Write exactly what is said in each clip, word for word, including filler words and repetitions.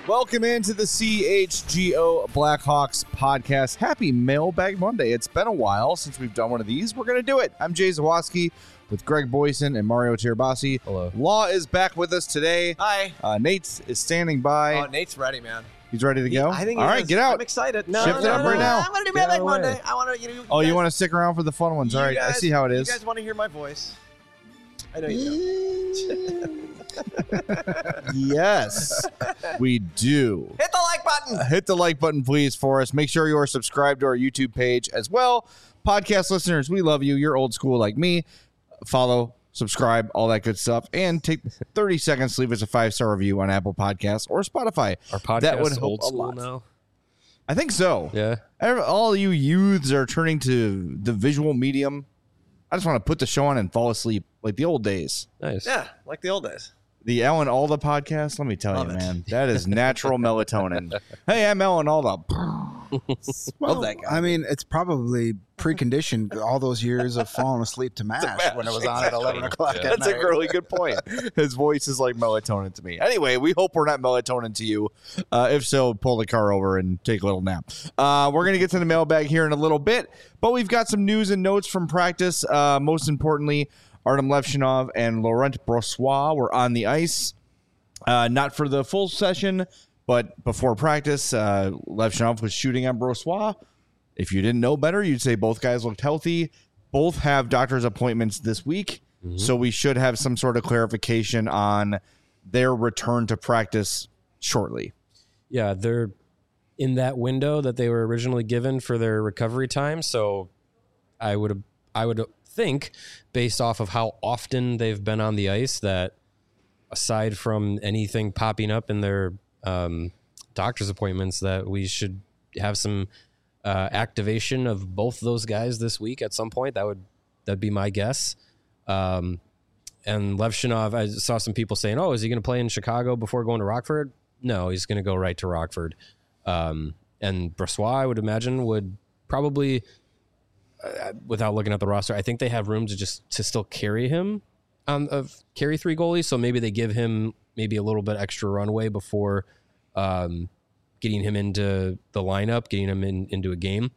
Welcome into the C H G O Blackhawks podcast. Happy Mailbag Monday. It's been a while since we've done one of these. We're going to do it. I'm Jay Zawoski with Greg Boyson and Mario Tirabassi. Hello. Law is back with us today. Hi. Uh, Nate is standing by. Oh, Nate's ready, man. He's ready to go? I think All he right, is. get out. I'm excited. No, Shift no, it up no, right no. now. I'm going to do Get Mailbag away. Monday. I want to, you know, Oh, guys, you want to stick around for the fun ones? you All right, I guys- see how it is. You guys want to hear my voice? I know you do. Yes, we do. Hit the like button. Hit the like button, please, for us. Make sure you are subscribed to our YouTube page as well. Podcast listeners, we love you. You're old school like me. Follow, subscribe, all that good stuff. And take thirty seconds to leave us a five-star review on Apple Podcasts or Spotify. Our podcast That would help old a school lot. now. I think so. Yeah. Every- All you youths are turning to the visual medium. I just want to put the show on and fall asleep like the old days. Nice. Yeah, like the old days. The Ellen Alda podcast, let me tell Love you, it. man, that is natural melatonin. Hey, I'm Ellen Alda. Well, that guy. I mean, it's probably preconditioned all those years of falling asleep to MASH when it was on at eleven o'clock Yeah. at That's a night. really good point. His voice is like melatonin to me. Anyway, we hope we're not melatonin to you. Uh, if so, pull the car over and take a little nap. Uh, we're going to get to the mailbag here in a little bit, but we've got some news and notes from practice. Uh, most importantly, Artem Levshinov and Laurent Brossoit were on the ice. Uh, not for the full session, but before practice, uh, Levshinov was shooting on Brossoit. If you didn't know better, you'd say both guys looked healthy. Both have doctor's appointments this week, Mm-hmm. so we should have some sort of clarification on their return to practice shortly. Yeah, they're in that window that they were originally given for their recovery time. So I would I would think, based off of how often they've been on the ice, that aside from anything popping up in their um, doctor's appointments, that we should have some uh, activation of both those guys this week at some point. That would that'd be my guess. Um, and Levshinov, I saw some people saying, "Oh, is he going to play in Chicago before going to Rockford?" No, he's going to go right to Rockford. Um, and Brossoit, I would imagine, would probably, uh, without looking at the roster, I think they have room to just to still carry him on of carry three goalies. So maybe they give him maybe a little bit extra runway before um, getting him into the lineup, getting him in, into a game.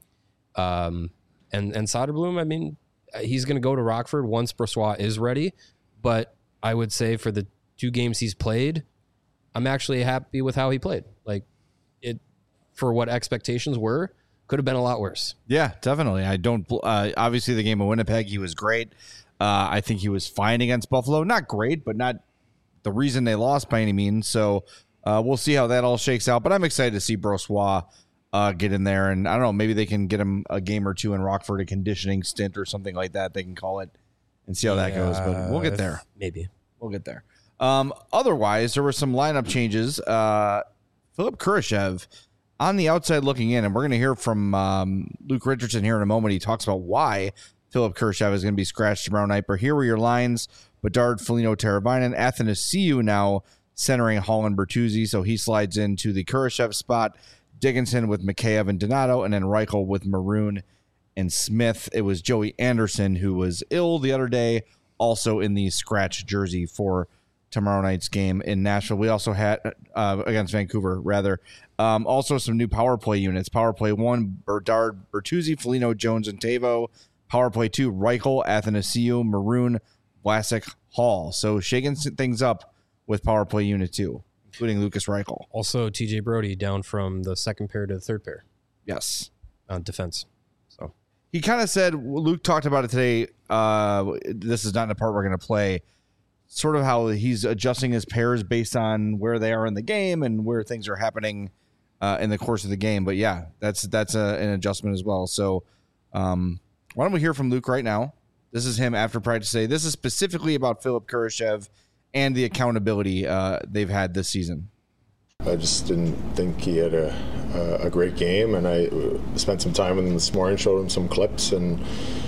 Um, and and Soderblom, I mean, he's going to go to Rockford once Brossoit is ready. But I would say for the two games he's played, I'm actually happy with how he played. Like it, for what expectations were, could have been a lot worse. Yeah, definitely. I don't. Uh, obviously, the game of Winnipeg, he was great. Uh, I think he was fine against Buffalo. Not great, but not the reason they lost by any means. So uh, we'll see how that all shakes out. But I'm excited to see Brossoit uh, get in there, and I don't know, maybe they can get him a game or two in Rockford, a conditioning stint or something like that. They can call it and see how that goes. But we'll get there. Maybe. We'll get there. Um, otherwise, there were some lineup changes. Uh, Philip Kurashev on the outside looking in, and we're going to hear from um, Luke Richardson here in a moment. He talks about why Philip Kurashev is going to be scratched tomorrow night. But here were your lines: Bedard, Foligno, Teravainen, Athanasiou now centering Holland Bertuzzi, so he slides into the Kurashev spot. Dickinson with Mikheyev and Donato, and then Reichel with Maroon and Smith. It was Joey Anderson who was ill the other day, also in the scratch jersey for tomorrow night's game in Nashville. We also had uh, against Vancouver, rather. Um, also, some new power play units. Power play one: Bedard, Bertuzzi, Foligno, Jones, and Tavo. Power play two: Reichel, Athanasiou, Maroon, Vlasic, Hall. So shaking things up with power play unit two, including Lucas Reichel. Also, T J Brody down from the second pair to the third pair Yes. on defense. So He kind of said, Luke talked about it today. Uh, this is not in the part we're going to play. Sort of how he's adjusting his pairs based on where they are in the game and where things are happening uh, in the course of the game. But yeah, that's that's a, an adjustment as well. So um, why don't we hear from Luke right now? This is him after practice today. This is specifically about Philip Kurashev and the accountability uh, they've had this season. I just didn't think he had a, a, a great game, and I spent some time with him this morning, showed him some clips, and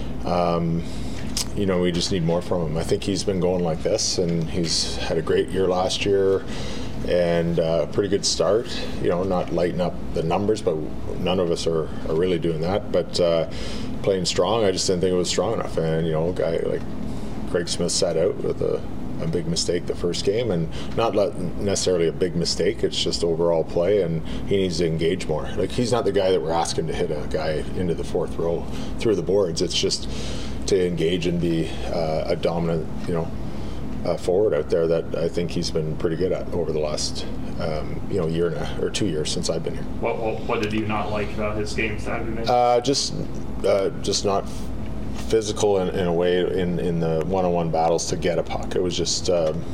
um, you know, we just need more from him. I think he's been going like this, and he's had a great year last year and a pretty good start. You know, not lighting up the numbers, but none of us are, are really doing that. But uh, playing strong, I just didn't think it was strong enough. And, you know, a guy like Craig Smith sat out with a, a big mistake the first game, and not let, necessarily a big mistake. It's just overall play, and he needs to engage more. Like, he's not the guy that we're asking to hit a guy into the fourth row through the boards. It's just to engage and be uh, a dominant, you know, uh, forward out there that I think he's been pretty good at over the last, um, you know, year and a, or two years since I've been here. What, what, what did you not like about his game Saturday? Uh, just, uh, just not physical in, in a way in, in the one-on-one battles to get a puck. It was just um,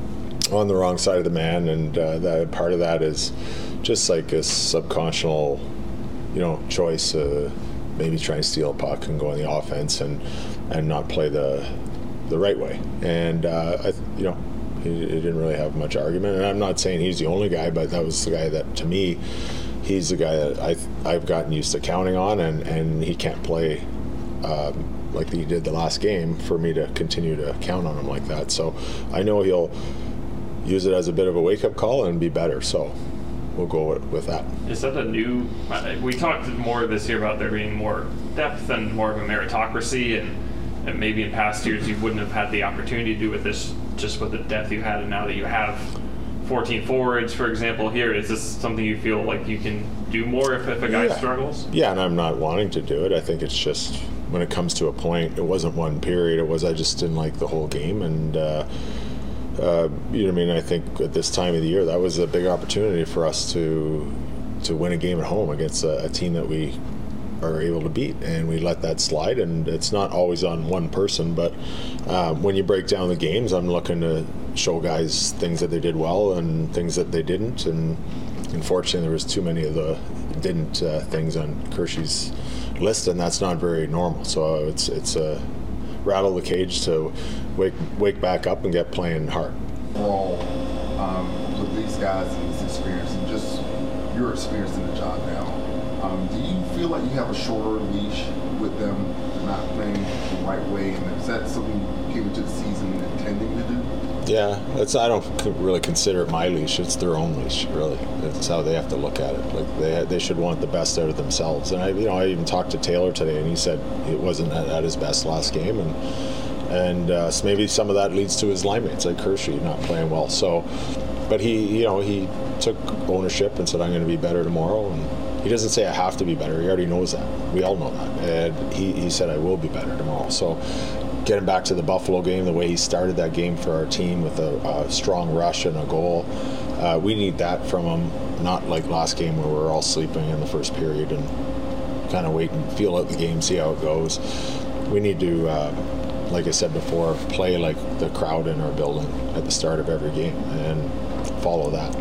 on the wrong side of the man, and uh, that part of that is just like a subconscious, you know, choice. Uh, maybe try and steal a puck and go on the offense and and not play the the right way. And uh, I, you know, he, he didn't really have much argument. And I'm not saying he's the only guy, but that was the guy that, to me, he's the guy that I I've gotten used to counting on, and and he can't play Um, like he did the last game for me to continue to count on him like that. So I know he'll use it as a bit of a wake-up call and be better. So we'll go with, with that. Is that a new? We talked more this year about there being more depth and more of a meritocracy, and, and maybe in past years you wouldn't have had the opportunity to do with this just with the depth you had, and now that you have fourteen forwards, for example, here, is this something you feel like you can do more if, if a guy yeah. struggles? Yeah, and I'm not wanting to do it. I think it's just when it comes to a point, it wasn't one period. It was I just didn't like the whole game, and uh, uh, you know what I mean. I think at this time of the year, that was a big opportunity for us to to win a game at home against a, a team that we are able to beat, and we let that slide. And it's not always on one person, but uh, when you break down the games, I'm looking to show guys things that they did well and things that they didn't. And unfortunately, there was too many of the didn't uh, things on Kershey's list, and that's not very normal. So it's it's a rattle the cage to wake wake back up and get playing hard. Overall, um, with these guys and this experience, and just your experience in the job now, um, do you feel like you have a shorter leash with them not playing the right way, and is that something you came into the season intending to do? Yeah, it's I don't really consider it my leash. It's their own leash, really. It's how they have to look at it. Like they they should want the best out of themselves. And I, you know, I even talked to Taylor today, and he said it wasn't at, at his best last game, and and uh, so maybe some of that leads to his line mates like Hershey not playing well. So, but he, you know, he took ownership and said, I'm going to be better tomorrow. And he doesn't say I have to be better. He already knows that. We all know that. And he, he said I will be better tomorrow. So. Getting back to the Buffalo game, the way he started that game for our team with a, a strong rush and a goal, uh, we need that from him. Not like last game where we were all sleeping in the first period and kind of wait and feel out the game, see how it goes. We need to, uh, like I said before, play like the crowd in our building at the start of every game and follow that.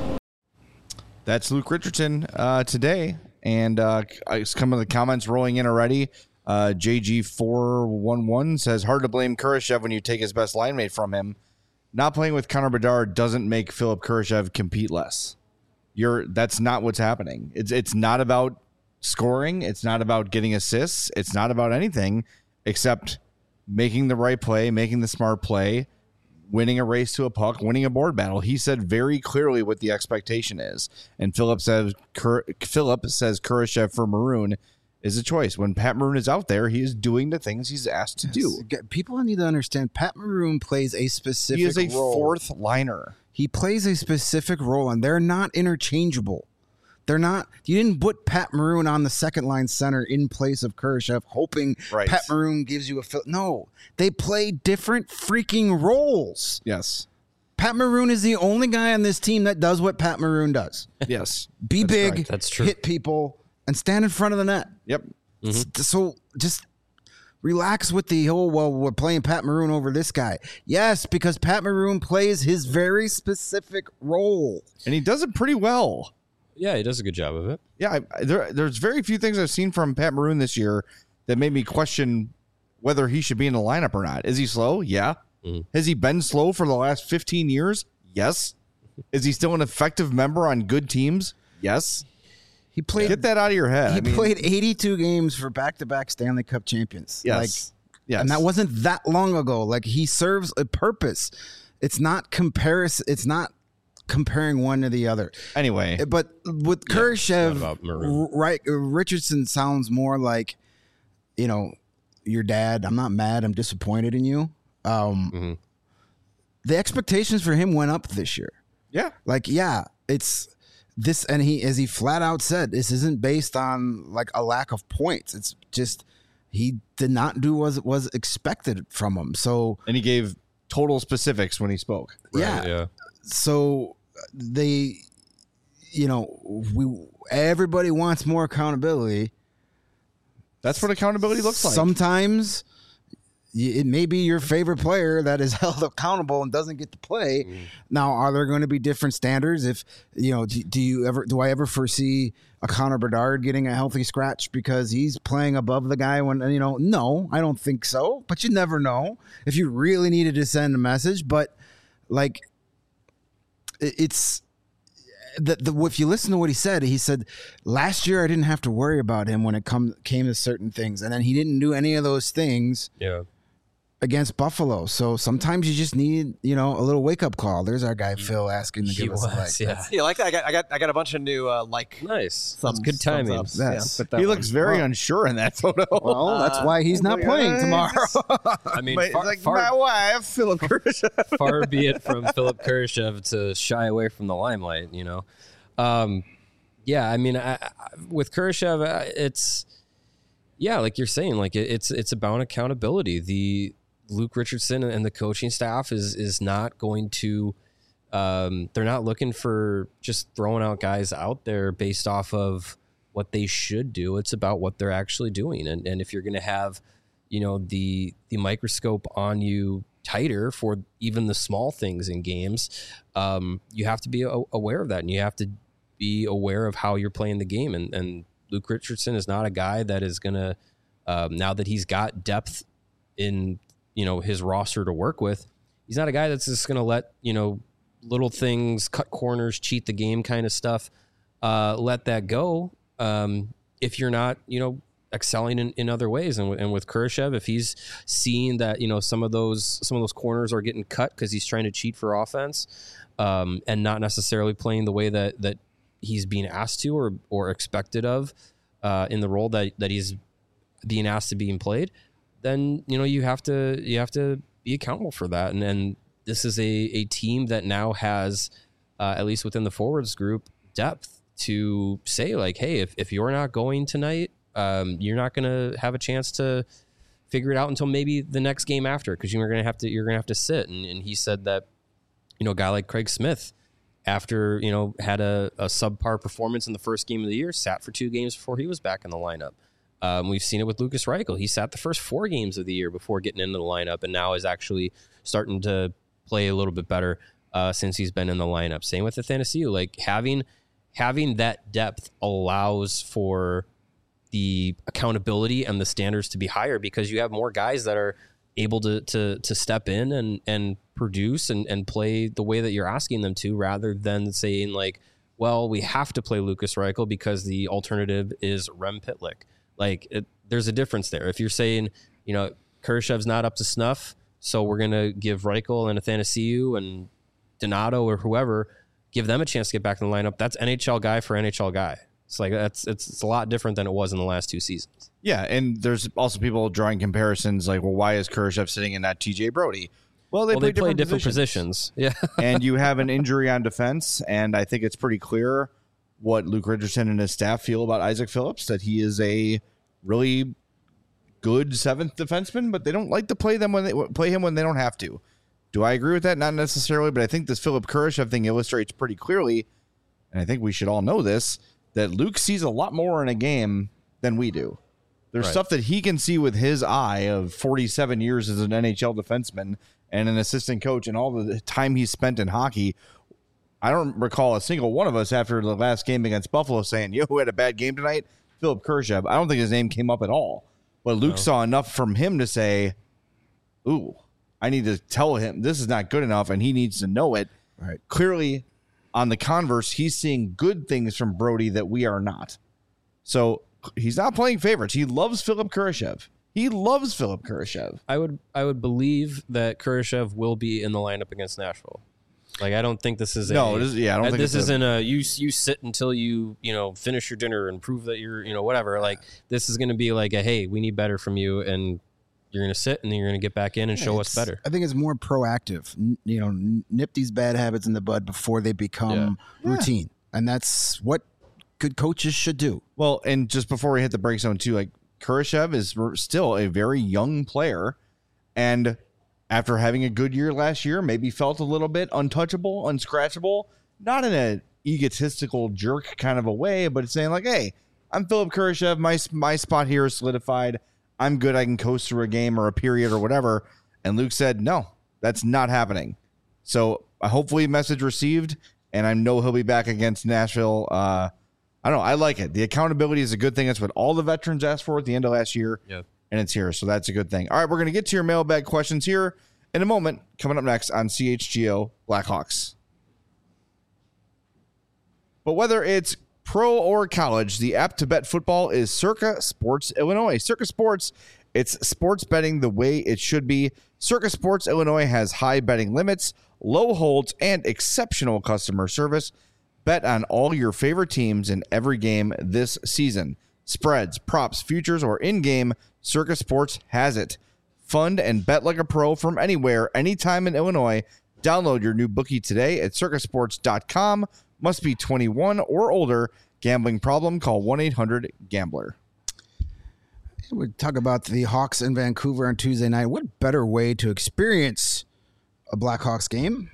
That's Luke Richardson uh, today, and uh, some of the comments rolling in already. Uh, J G four one one says, hard to blame Kurashev when you take his best line mate from him. Not playing with Connor Bedard doesn't make Philip Kurashev compete less. You're that's not what's happening. It's it's not about scoring. It's not about getting assists. It's not about anything except making the right play, making the smart play, winning a race to a puck, winning a board battle. He said very clearly what the expectation is. And Philip says Kur, Philip says Kurashev for Maroon is a choice. When Pat Maroon is out there, he is doing the things he's asked to do. People need to understand Pat Maroon plays a specific role. He is a role. fourth liner. He plays a specific role, and they're not interchangeable. They're not. You didn't put Pat Maroon on the second line center in place of Kurashev, hoping right. Pat Maroon gives you a fill. No, they play different freaking roles. Yes. Pat Maroon is the only guy on this team that does what Pat Maroon does. Yes. Be That's big, correct. That's true. hit people, and stand in front of the net. Yep. Mm-hmm. So just relax with the whole, well, we're playing Pat Maroon over this guy. Yes, because Pat Maroon plays his very specific role. And he does it pretty well. Yeah, he does a good job of it. Yeah, I, there, there's very few things I've seen from Pat Maroon this year that made me question whether he should be in the lineup or not. Is he slow? Yeah. Mm-hmm. Has he been slow for the last fifteen years? Yes. Is he still an effective member on good teams? Yes. He played. Get that out of your head. He I mean, played eighty-two games for back-to-back Stanley Cup champions. Yes. Like, yes. And that wasn't that long ago. Like, he serves a purpose. It's not comparison. It's not comparing one to the other. Anyway. But with Yeah, Kurashev, right, Richardson sounds more like, you know, your dad. I'm not mad. I'm disappointed in you. Um, mm-hmm. the expectations for him went up this year. Yeah. Like, yeah, it's this, and he, as he flat out said, this isn't based on like a lack of points. It's just he did not do what was expected from him. So, And he gave total specifics when he spoke. yeah, yeah. so they, you know, we everybody wants more accountability. That's what accountability looks like. Sometimes y- it may be your favorite player that is held accountable and doesn't get to play. Mm. Now, are there going to be different standards? If you know, do, do you ever do I ever foresee a Connor Bedard getting a healthy scratch because he's playing above the guy? When you know, no, I don't think so. But you never know if you really needed to send a message. But like, it- it's. The, the, if you listen to what he said, he said, last year I didn't have to worry about him when it come, came to certain things. And then he didn't do any of those things Yeah. against Buffalo. So sometimes you just need, you know, a little wake up call. There's our guy, Phil, asking to He give us a like. was, yeah. Yeah, like that. I got, I got, I got a bunch of new uh, like. Nice. Thumbs, That's good thumbs timing. ups. Yes. Yeah, put that He one. looks very unsure in that photo. Well, that's why he's not like, playing uh, tomorrow. I mean, But it's far, like far, my wife, Philip Kurashev. far be it from Philip Kurashev to shy away from the limelight, you know. Um, yeah, I mean, I, I, with Kurashev, uh, it's yeah, like you're saying, like it, it's it's about accountability. The Luke Richardson and the coaching staff is is not going to. Um, they're not looking for just throwing out guys out there based off of what they should do. It's about what they're actually doing, and and if you're going to have, you know, the the microscope on you tighter for even the small things in games, um, you have to be a- aware of that, and you have to be aware of how you're playing the game. And, and Luke Richardson is not a guy that is going to, um, now that he's got depth in, you know, his roster to work with, he's not a guy that's just going to let, you know, little things, cut corners, cheat the game kind of stuff, uh, let that go. Um, if you're not, you know, excelling in, in other ways. And, and with Kurashev, if he's seeing that, you know, some of those, some of those corners are getting cut because he's trying to cheat for offense, um, and not necessarily playing the way that, that he's being asked to, or, or expected of, uh, in the role that, that he's being asked to being played, then, you know, you have to, you have to be accountable for that. And then this is a, a team that now has, uh, at least within the forwards group, depth to say like, hey, if, if you're not going tonight, um, you're not going to have a chance to figure it out until maybe the next game after, because you're going to have to, you're going to have to sit. And, and he said that, you know, a guy like Craig Smith, after, you know, had a, a subpar performance in the first game of the year, sat for two games before he was back in the lineup. Um, we've seen it with Lucas Reichel. He sat the first four games of the year before getting into the lineup, and now is actually starting to play a little bit better uh, since he's been in the lineup. Same with Athanasiou. Like having having that depth allows for the accountability and the standards to be higher, because you have more guys that are able to to to step in and and produce and, and play the way that you're asking them to, rather than saying like, well, we have to play Lucas Reichel because the alternative is Rem Pitlick. Like it, there's a difference there. If you're saying, you know, Kurashev's not up to snuff, so we're going to give Reichel and Athanasiou and Donato or whoever, give them a chance to get back in the lineup. That's N H L guy for N H L guy. It's like, that's, it's, it's a lot different than it was in the last two seasons. Yeah, and there's also people drawing comparisons like, well, why is Kurashev sitting in that T J Brody? Well, they, well, play, they play different, different positions. Yeah. and you have an injury on defense, and I think it's pretty clear what Luke Richardson and his staff feel about Isaac Phillips, that he is a really good seventh defenseman, but they don't like to play them when they play him when they don't have to. Do I agree with that? Not necessarily, but I think this Philip Kurashev thing illustrates pretty clearly, and I think we should all know this, that Luke sees a lot more in a game than we do. There's Right. stuff that he can see with his eye of forty-seven years as an N H L defenseman and an assistant coach and all the time he's spent in hockey. I don't recall a single one of us after the last game against Buffalo saying, yo, who had a bad game tonight? Philip Kurashev. I don't think his name came up at all. But Luke No. saw enough from him to say, ooh, I need to tell him this is not good enough, and he needs to know it. Right. Clearly, on the converse, he's seeing good things from Brody that we are not. So he's not playing favorites. He loves Philip Kurashev. He loves Philip Kurashev. I would I would believe that Kurashev will be in the lineup against Nashville. Like I don't think this is a No, this, yeah, I don't uh, think this it's a- isn't a you you sit until you you know finish your dinner and prove that you're you know whatever. Like this is going to be like a hey, we need better from you, and you're going to sit and then you're going to get back in and show us It's- better. I think it's more proactive. N- You know, n- nip these bad habits in the bud before they become routine, and that's what good coaches should do. Well, and just before we hit the break zone too, like Kurashev is r- still a very young player, and after having a good year last year, maybe felt a little bit untouchable, unscratchable, not in a egotistical jerk kind of a way, but saying like, "Hey, I'm Philip Kurashev. My my spot here is solidified. I'm good. I can coast through a game or a period or whatever." And Luke said, "No, that's not happening." So uh, hopefully, message received, and I know he'll be back against Nashville. Uh, I don't know. I like it. The accountability is a good thing. That's what all the veterans asked for at the end of last year, Yep. and it's here. So that's a good thing. All right, we're going to get to your mailbag questions here in a moment. Coming up next on C H G O Blackhawks. But whether it's pro or college, the app to bet football is Circa Sports Illinois. Circa Sports, it's sports betting the way it should be. Circa Sports Illinois has high betting limits, low holds, and exceptional customer service. Bet on all your favorite teams in every game this season. Spreads, props, futures, or in-game, Circa Sports has it. Fund and bet like a pro from anywhere, anytime in Illinois. Download your new bookie today at circa sports dot com. Must be twenty-one or older. Gambling problem? Call one eight hundred gambler. We talk about the Hawks in Vancouver on Tuesday night. What better way to experience a Blackhawks game?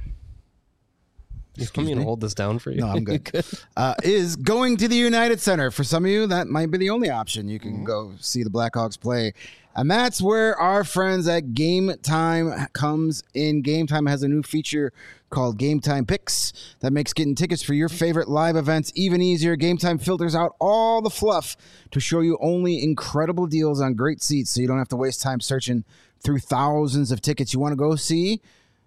You want me to hold this down for you? No, I'm good. uh, is going to the United Center. For some of you, that might be the only option. You can go see the Blackhawks play. And that's where our friends at Game Time comes in. Game Time has a new feature called Game Time Picks that makes getting tickets for your favorite live events even easier. Game Time filters out all the fluff to show you only incredible deals on great seats so you don't have to waste time searching through thousands of tickets. You want to go see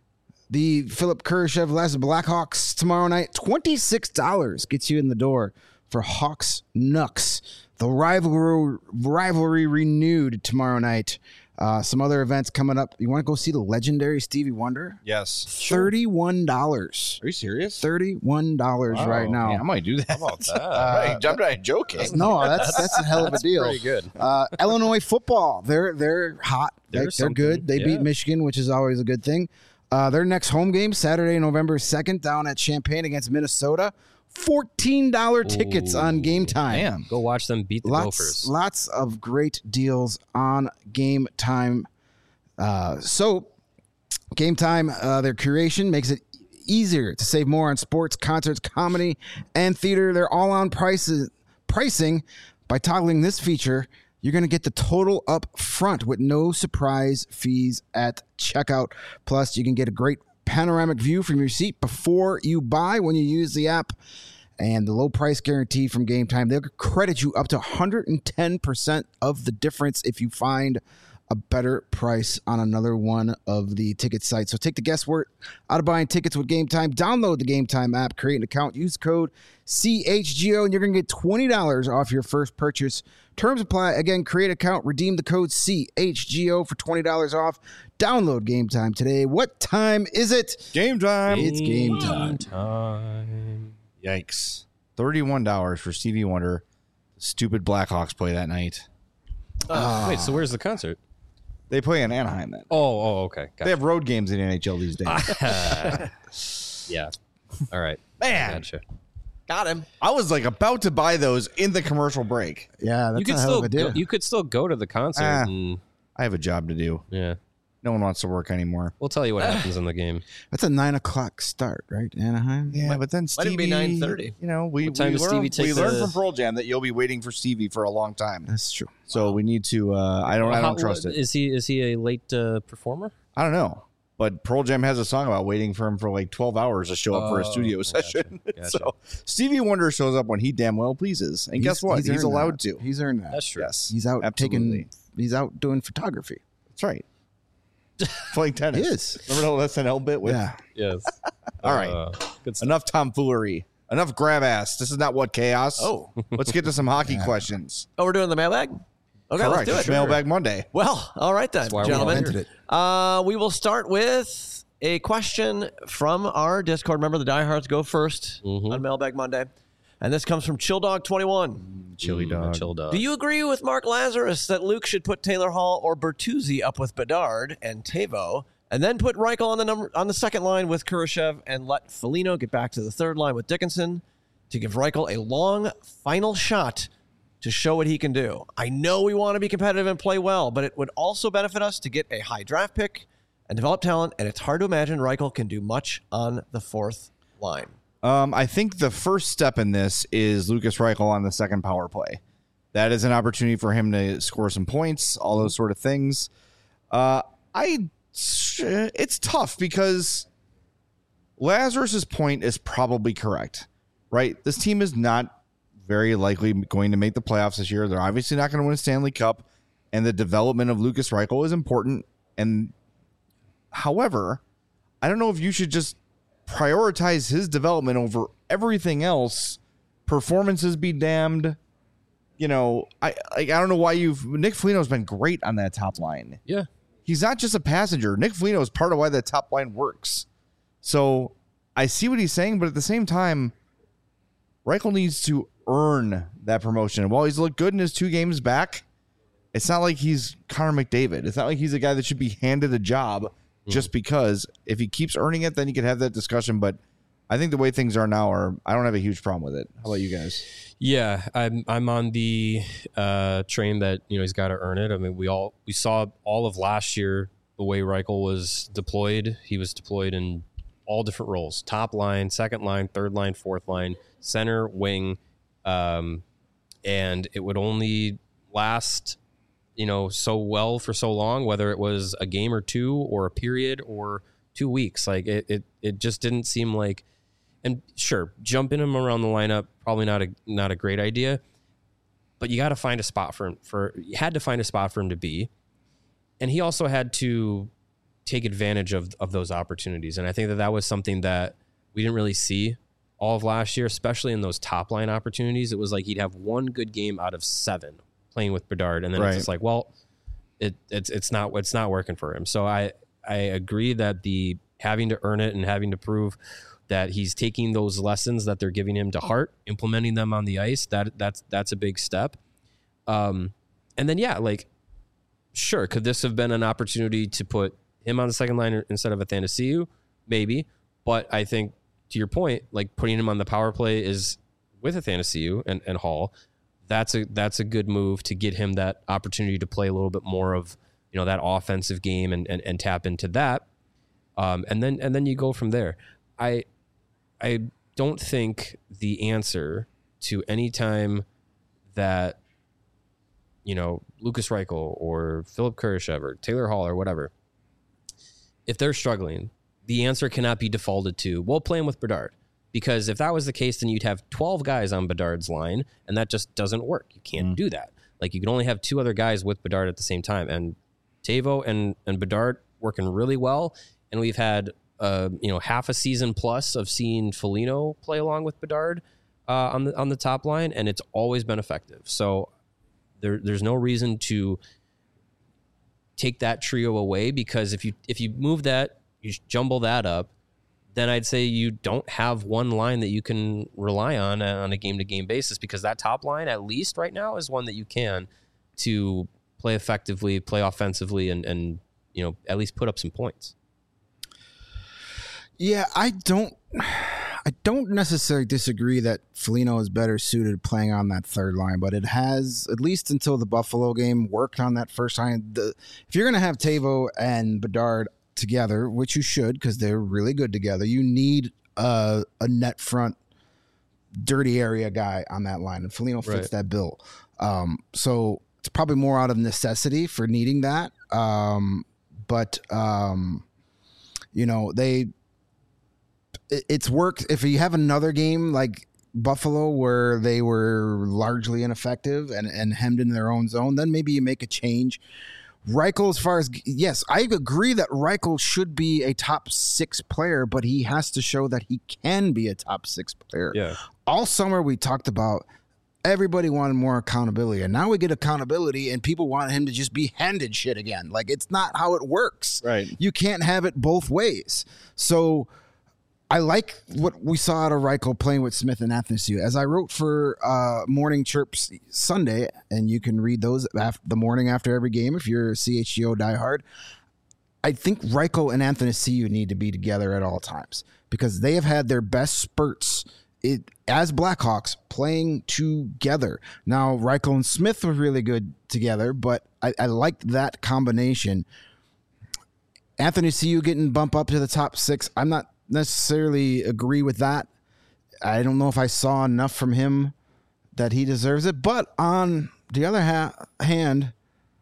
the Philip Kurashev Les Blackhawks tomorrow night? twenty-six dollars gets you in the door for Hawks Knucks. The rivalry, rivalry renewed tomorrow night. Uh, some other events coming up. You want to go see the legendary Stevie Wonder? Yes. thirty-one dollars. Are you serious? thirty-one dollars right now. Yeah, I might do that. How about that? Uh, I'm not joking. No, that's that's a hell of a deal. Pretty good. Uh, Illinois football, they're they're hot. They're, There's they're good. something, They yeah. beat Michigan, which is always a good thing. Uh, their next home game, Saturday, November second, down at Champaign against Minnesota. fourteen dollars tickets on Game Time. Damn. Go watch them beat the Lots, Gophers. lots of great deals on Game Time. Uh, so, Game Time, uh, their curation makes it easier to save more on sports, concerts, comedy, and theater. They're all on prices, pricing. By toggling this feature, you're going to get the total up front with no surprise fees at checkout. Plus, you can get a great panoramic view from your seat before you buy when you use the app. And the low price guarantee from Game Time, they'll credit you up to one hundred ten percent of the difference if you find a better price on another one of the ticket sites. So take the guesswork out of buying tickets with Game Time. Download the Game Time app, create an account, use code C H G O, and you're going to get twenty dollars off your first purchase. Terms apply. Again, create an account, redeem the code C H G O for twenty dollars off. Download Game Time today. What time is it? Game time. It's game time. time. Yikes. thirty-one dollars for Stevie Wonder. Stupid Blackhawks play that night. Uh, wait, so where's the concert? They play in Anaheim then. Oh, oh, okay. They Gotcha. have road games in N H L these days. Yeah. All right. Man, Gotcha. Got him. I was like about to buy those in the commercial break. Yeah, that's You could a hell still of a deal. go, you could still go to the concert. Ah. and, I have a job to do. yeah. No one wants to work anymore. We'll tell you what happens in the game. That's a nine o'clock start, right? Anaheim? Yeah, but then Might Stevie, even be nine thirty. You know, we What time we does learned, Stevie we take learned the- from Pearl Jam that you'll be waiting for Stevie for a long time. That's true. So we need to. Uh, I don't. I don't How- trust it. Is he is he a late uh, performer? I don't know. But Pearl Jam has a song about waiting for him for like twelve hours to show up for a Oh, studio gotcha, session. gotcha. So Stevie Wonder shows up when he damn well pleases. And guess what? He's, earned allowed that. to. He's earned that. That's true. Yes. He's out Absolutely. taking. He's out doing photography. That's right. Playing tennis. He is. Remember the S N L bit with Yeah. Yes. All right. Uh, good stuff. enough tomfoolery. Enough grab ass. This is not what chaos. Oh. Let's get to some hockey questions. Oh, we're doing the mailbag? Okay, Correct. let's do It's it. Mailbag Monday. Well, all right then, That's why we gentlemen. invented it. Uh, we will start with a question from our Discord. Remember, the diehards go first Mhm. on Mailbag Monday. And this comes from Chill Dog twenty-one. Chili dog. Chill dog. Do you agree with Mark Lazarus that Luke should put Taylor Hall or Bertuzzi up with Bedard and Tavo, and then put Reichel on the number on the second line with Kurashev and let Foligno get back to the third line with Dickinson to give Reichel a long final shot to show what he can do? I know we want to be competitive and play well, but it would also benefit us to get a high draft pick and develop talent, and it's hard to imagine Reichel can do much on the fourth line. Um, I think the first step in this is Lucas Reichel on the second power play. That is an opportunity for him to score some points, all those sort of things. Uh, I it's tough because Lazarus's point is probably correct, right? This team is not very likely going to make the playoffs this year. They're obviously not going to win a Stanley Cup, and the development of Lucas Reichel is important. And however, I don't know if you should just prioritize his development over everything else. Performances be damned. You know, I I, I don't know why you've Nick Foligno's been great on that top line. Yeah. He's not just a passenger. Nick Foligno is part of why that top line works. So I see what he's saying, but at the same time, Reichel needs to earn that promotion. While he's looked good in his two games back, it's not like he's Connor McDavid. It's not like he's a guy that should be handed a job just because. If he keeps earning it, then you could have that discussion. But I think the way things are now, are I don't have a huge problem with it. How about you guys? Yeah, I'm I'm on the uh, train that, you know, he's got to earn it. I mean, we all we saw all of last year the way Reichel was deployed. He was deployed in all different roles: top line, second line, third line, fourth line, center, wing, um, and it would only last, you know, so well for so long, whether it was a game or two or a period or two weeks. Like it, it, it just didn't seem like, and sure, jumping him around the lineup, probably not a, not a great idea, but you got to find a spot for him for, you had to find a spot for him to be. And he also had to take advantage of, of those opportunities. And I think that that was something that we didn't really see all of last year, especially in those top line opportunities. It was like he'd have one good game out of seven playing with Bedard, and then right. It's just like, well, it it's it's not it's not working for him. So I I agree that the having to earn it and having to prove that he's taking those lessons that they're giving him to heart, implementing them on the ice, that that's that's a big step. Um, and then yeah, like, sure, could this have been an opportunity to put him on the second line instead of Athanasiou? Maybe, but I think to your point, like putting him on the power play is with Athanasiou and, and Hall. That's a that's a good move to get him that opportunity to play a little bit more of, you know, that offensive game and and, and tap into that, um, and then and then you go from there. I I don't think the answer to any time that, you know, Lucas Reichel or Philip Kurashev or Taylor Hall or whatever, if they're struggling, the answer cannot be defaulted to, well, playing with Bedard. Because if that was the case, then you'd have twelve guys on Bedard's line, and that just doesn't work. You can't mm. do that. Like, you can only have two other guys with Bedard at the same time. And Tavo and, and Bedard working really well. And we've had, uh, you know, half a season plus of seeing Foligno play along with Bedard uh, on the on the top line, and it's always been effective. So there, there's no reason to take that trio away, because if you if you move that, you jumble that up, then I'd say you don't have one line that you can rely on on a game-to-game basis, because that top line, at least right now, is one that you can to play effectively, play offensively, and, and you know, at least put up some points. Yeah, I don't I don't necessarily disagree that Foligno is better suited playing on that third line, but it has, at least until the Buffalo game, worked on that first line. The, if you're going to have Tavo and Bedard together, which you should, because they're really good together, you need a, a net front dirty area guy on that line, and Foligno fits right. that bill. Um, so it's probably more out of necessity for needing that. Um, but um, you know, they it, it's worked. If you have another game like Buffalo where they were largely ineffective and, and hemmed in their own zone, then maybe you make a change. Reichel, as far as, yes, I agree that Reichel should be a top six player, but he has to show that he can be a top six player. Yeah. All summer we talked about everybody wanted more accountability, and now we get accountability and people want him to just be handed shit again. Like, it's not how it works. Right. You can't have it both ways. So I like what we saw out of Reichel playing with Smith and Athanasiou. As I wrote for uh, Morning Chirps Sunday, and you can read those after, the morning after every game if you're a C H G O diehard, I think Reichel and Athanasiou need to be together at all times because they have had their best spurts it, as Blackhawks playing together. Now, Reichel and Smith were really good together, but I, I liked that combination. Athanasiou getting bumped up to the top six, I'm not necessarily agree with that. I don't know if I saw enough from him that he deserves it. But on the other ha- hand,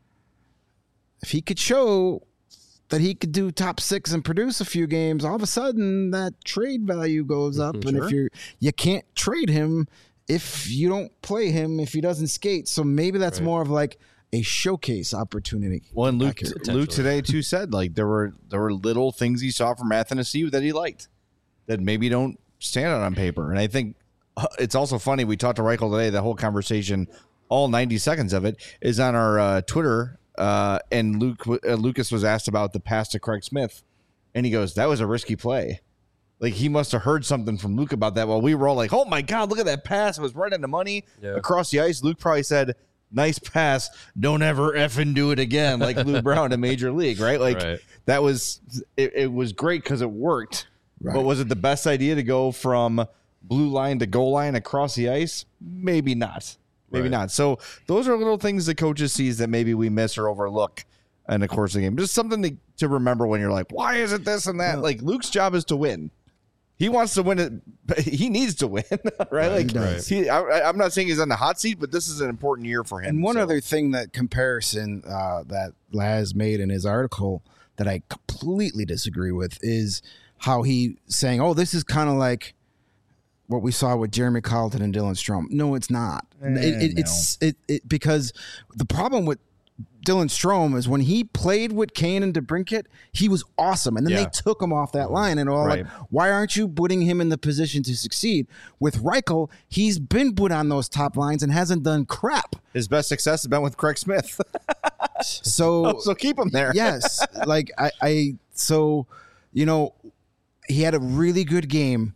if he could show that he could do top six and produce a few games, all of a sudden that trade value goes up. Mm-hmm, and sure. if you're you can't trade him if you don't play him, if he doesn't skate. So maybe that's Right. more of like a showcase opportunity. Well, and Luke, Accurate. Luke today too said like there were there were little things he saw from Athanasiou that he liked that maybe don't stand out on paper. And I think uh, it's also funny. We talked to Reichel today. The whole conversation, all ninety seconds of it, is on our uh, Twitter. Uh, and Luke uh, Lucas was asked about the pass to Craig Smith, and he goes, "That was a risky play." Like he must have heard something from Luke about that. While we were all like, "Oh my God, look at that pass! It was right on the money Yeah. across the ice." Luke probably said, "Nice pass. Don't ever effing do it again." Like Lou Brown in Major League, right? Like Right. that was it, it was great because it worked. Right. But was it the best idea to go from blue line to goal line across the ice? Maybe not. Maybe Right. not. So those are little things the coaches sees that maybe we miss or overlook in the course of the game. Just something to, to remember when you're like, why is it this and that? Well- like Luke's job is to win. He wants to win it, but he needs to win, right? Like he does. he, I, I'm not saying he's on the hot seat, but this is an important year for him. And one so. other thing that comparison uh, that Laz made in his article that I completely disagree with is how he saying, "Oh, this is kind of like what we saw with Jeremy Colleton and Dylan Strome." No, it's not. Eh, it, it, no. It's it, it because the problem with Dylan Strome is when he played with Kane and DeBrincat, he was awesome, and then Yeah. they took him off that line, and all Right. like, why aren't you putting him in the position to succeed? With Reichel, he's been put on those top lines and hasn't done crap. His best success has been with Craig Smith. So so keep him there. yes, like I, I, so you know, he had a really good game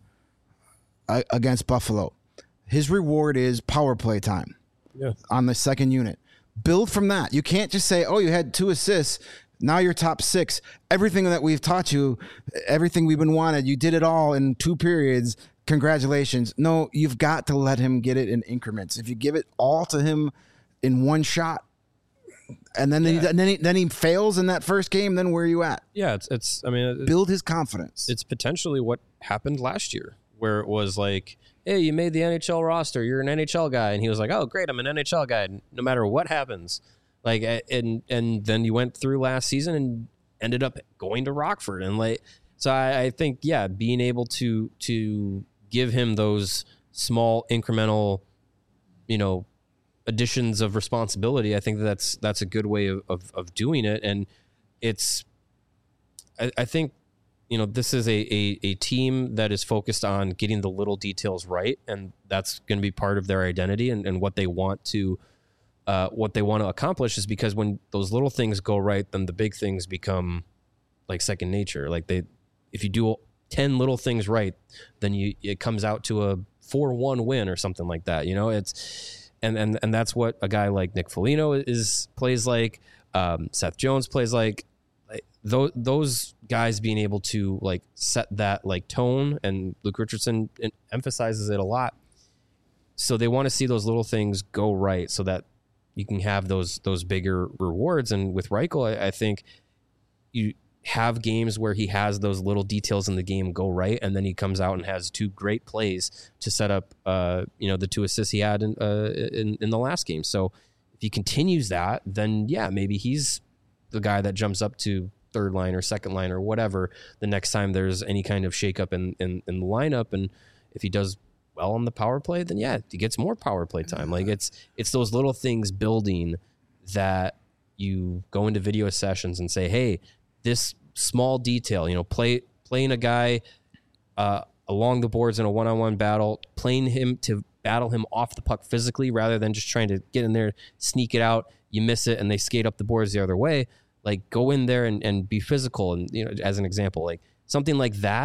uh, against Buffalo. His reward is power play time Yeah. on the second unit. Build from that. You can't just say, "Oh, you had two assists. Now you're top six. Everything that we've taught you, everything we've been wanted, you did it all in two periods. Congratulations." No, you've got to let him get it in increments. If you give it all to him in one shot, and then he, then he, then he fails in that first game, then where are you at? Yeah, it's it's. I mean, it- Build his confidence. it's potentially what happened last year, where it was like, hey, you made the N H L roster, you're an N H L guy, and he was like, oh, great, I'm an N H L guy, no matter what happens. Like, and and then you went through last season and ended up going to Rockford, and like, so I, I think, yeah, being able to to give him those small incremental, you know, additions of responsibility, I think that's that's a good way of of, of doing it, and it's, I, I think. You know, this is a, a a team that is focused on getting the little details right, and that's going to be part of their identity and, and what they want to uh, what they want to accomplish. Is because when those little things go right, then the big things become like second nature. Like they, if you do ten little things right, then you it comes out to a four one win or something like that. You know, it's and and and that's what a guy like Nick Foligno is plays like. Um, Seth Jones plays like. Those those guys being able to like set that like tone, and Luke Richardson emphasizes it a lot. So they want to see those little things go right, so that you can have those those bigger rewards. And with Reichel, I, I think you have games where he has those little details in the game go right, and then he comes out and has two great plays to set up, uh, you know, the two assists he had in, uh, in in the last game. So if he continues that, then yeah, maybe he's the guy that jumps up to third line or second line or whatever the next time there's any kind of shakeup in, in in the lineup. And if he does well on the power play, then yeah, he gets more power play time. Like it's it's those little things building that you go into video sessions and say, hey, this small detail, you know, play playing a guy uh, along the boards in a one-on-one battle, playing him to battle him off the puck physically rather than just trying to get in there, sneak it out, you miss it, and they skate up the boards the other way. Like go in there and, and be physical. And, you know, as an example, like something like that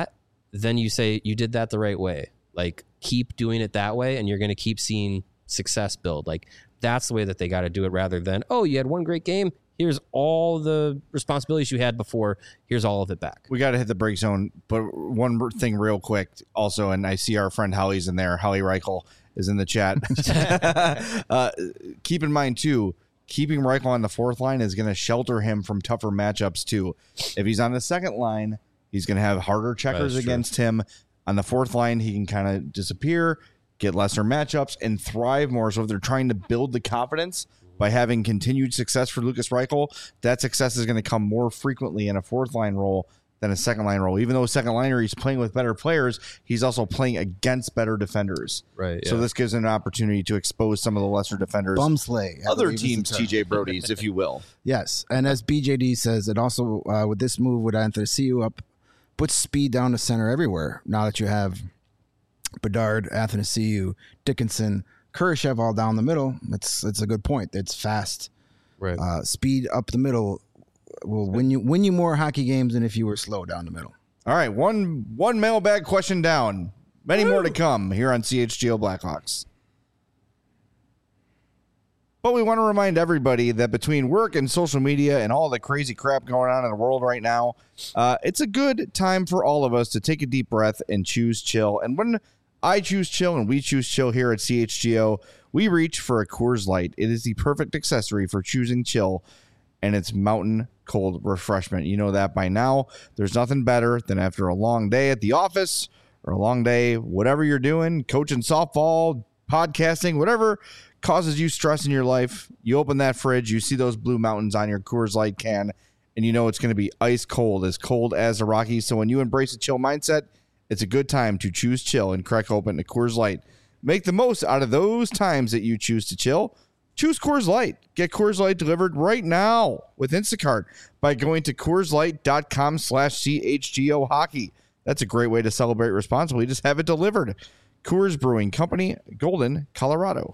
then you say you did that the right way. Like, keep doing it that way, and you're going to keep seeing success build. Like, that's the way that they got to do it, rather than, oh, you had one great game. Here's all the responsibilities you had before. Here's all of it back. We got to hit the break zone. But one thing real quick also, and I see our friend Holly's in there. Holly Reichel is in the chat. uh, keep in mind, too, keeping Reichel on the fourth line is going to shelter him from tougher matchups, too. If he's on the second line, he's going to have harder checkers against him. On the fourth line, he can kind of disappear, get lesser matchups, and thrive more. So if they're trying to build the confidence by having continued success for Lukas Reichel, that success is going to come more frequently in a fourth line role than a second line role. Even though second liner, he's playing with better players, he's also playing against better defenders. Right. So yeah. this gives him an opportunity to expose some of the lesser defenders. Bumsley. I Other believe is the teams, term. T J Brody's, if you will. Yes, and as B J D says, it also uh, with this move with Athanasiou up, puts speed down the center everywhere. Now that you have Bedard, Athanasiou, Dickinson, Kurashev all down the middle, it's it's a good point. It's fast, Right. uh, speed up the middle will win you win you more hockey games than if you were slow down the middle. All right, one one mailbag question down. Many Woo! more to come here on C H G O Blackhawks. But we want to remind everybody that between work and social media and all the crazy crap going on in the world right now, uh, it's a good time for all of us to take a deep breath and choose chill. And when I choose chill and we choose chill here at C H G O, we reach for a Coors Light. It is the perfect accessory for choosing chill, and it's mountain cold refreshment. You know that by now. There's nothing better than after a long day at the office or a long day, whatever you're doing, coaching softball, podcasting, whatever causes you stress in your life. You open that fridge, you see those blue mountains on your Coors Light can, and you know it's going to be ice cold, as cold as the Rockies. So when you embrace a chill mindset, it's a good time to choose chill and crack open a Coors Light. Make the most out of those times that you choose to chill. Choose Coors Light. Get Coors Light delivered right now with Instacart by going to CoorsLight.com slash CHGO hockey. That's a great way to celebrate responsibly. Just have it delivered. Coors Brewing Company, Golden, Colorado.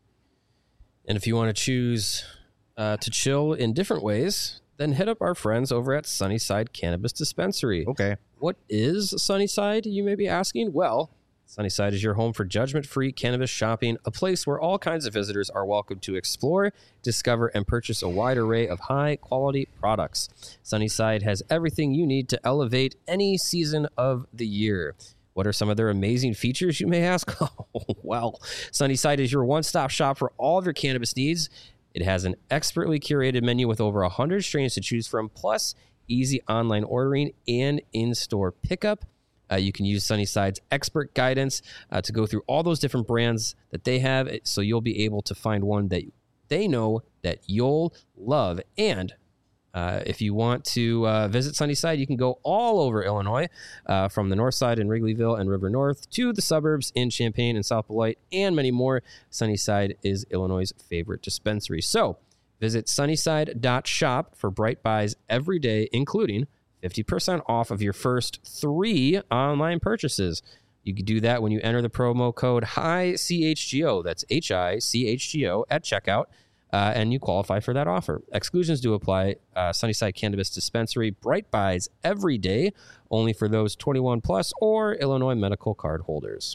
And if you want to choose uh, to chill in different ways, then hit up our friends over at Sunnyside Cannabis Dispensary. Okay. What is Sunnyside, you may be asking? Well, Sunnyside is your home for judgment-free cannabis shopping, a place where all kinds of visitors are welcome to explore, discover, and purchase a wide array of high-quality products. Sunnyside has everything you need to elevate any season of the year. What are some of their amazing features, you may ask? Oh, well, Sunnyside is your one-stop shop for all of your cannabis needs. It has an expertly curated menu with over one hundred strains to choose from, plus easy online ordering and in-store pickup. Uh, you can use Sunnyside's expert guidance uh, to go through all those different brands that they have, so you'll be able to find one that they know that you'll love. And uh, if you want to uh, visit Sunnyside, you can go all over Illinois, uh, from the north side in Wrigleyville and River North to the suburbs in Champaign and South Beloit and many more. Sunnyside is Illinois' favorite dispensary. So visit sunnyside dot shop for bright buys every day, including fifty percent off of your first three online purchases. You can do that when you enter the promo code H I C H G O. That's H I C H G O at checkout, uh, and you qualify for that offer. Exclusions do apply. Uh, Sunnyside Cannabis Dispensary, bright buys every day, only for those twenty-one plus or Illinois medical card holders.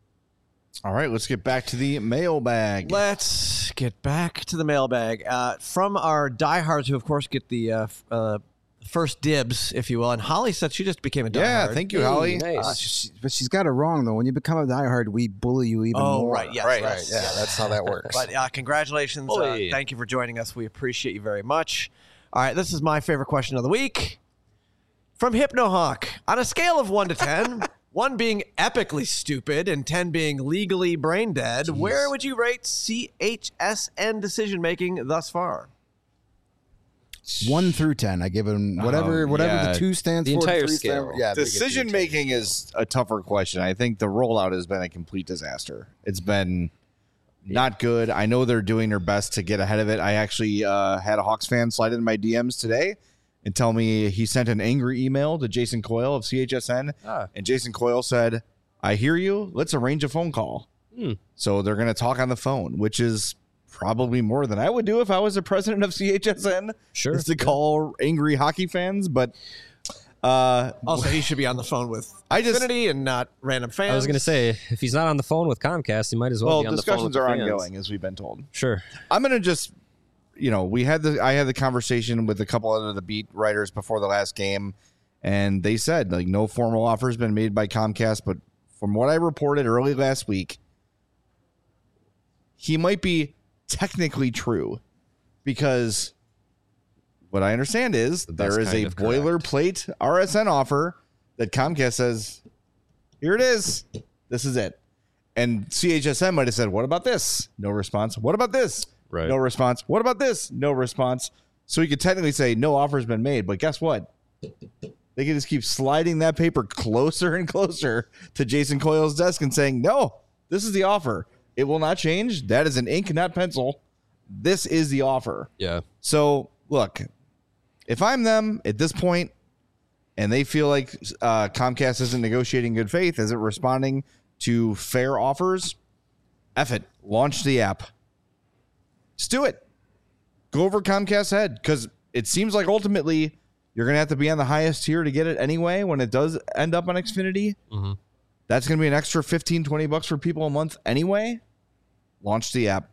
All right, let's get back to the mailbag. Let's get back to the mailbag. Uh, from our diehards, who, of course, get the uh, f- uh, first dibs, if you will. And Holly said she just became a diehard. Yeah, thank you, Hey, Holly. nice. Uh, she, but she's got it wrong though. When you become a diehard, we bully you even Oh, more. right, yes, Right, yes, Yeah, yes. that's how that works. But uh, congratulations. Uh, Bully. thank you for joining us. We appreciate you very much. All right, this is my favorite question of the week. From HypnoHawk. On a scale of one to ten, one being epically stupid and ten being legally brain dead, where would you rate C H S N decision-making thus far? One through ten, I give him whatever Um, whatever yeah. the two stands The for. entire three scale. stand- yeah, they get the Decision entire making is a tougher question. I think the rollout has been a complete disaster. It's been not good. I know they're doing their best to get ahead of it. I actually uh, had a Hawks fan slide into my D Ms today and tell me he sent an angry email to Jason Coyle of C H S N. Ah. And Jason Coyle said, I hear you. Let's arrange a phone call. Hmm. So they're going to talk on the phone, which is probably more than I would do if I was the president of C H S N. Sure. Is to call angry hockey fans. But Uh, Also, he should be on the phone with I just- Xfinity and not random fans. I was going to say, if he's not on the phone with Comcast, he might as well, well, be on the phone with discussions the are fans. ongoing, as we've been told. Sure. I'm gonna just, you know, we had the I had the conversation with a couple of the beat writers before the last game, and they said like no formal offer has been made by Comcast, but from what I reported early last week, he might be technically true because what I understand is That's there is kind a of correct. boilerplate R S N offer that Comcast says, here it is, this is it. And C H S N might have said, what about this? No response. What about this? Right. No response. What about this? No response. So he could technically say no offer's been made, but guess what? They can just keep sliding that paper closer and closer to Jason Coyle's desk and saying, no, this is the offer. It will not change. That is an ink, not pencil. This is the offer. Yeah. So look, if I'm them at this point and they feel like uh, Comcast isn't negotiating good faith, isn't responding to fair offers, F it. Launch the app. Just do it. Go over Comcast's head because it seems like ultimately you're going to have to be on the highest tier to get it anyway when it does end up on Xfinity. Mm-hmm. That's going to be an extra fifteen, twenty bucks for people a month anyway. Launch the app.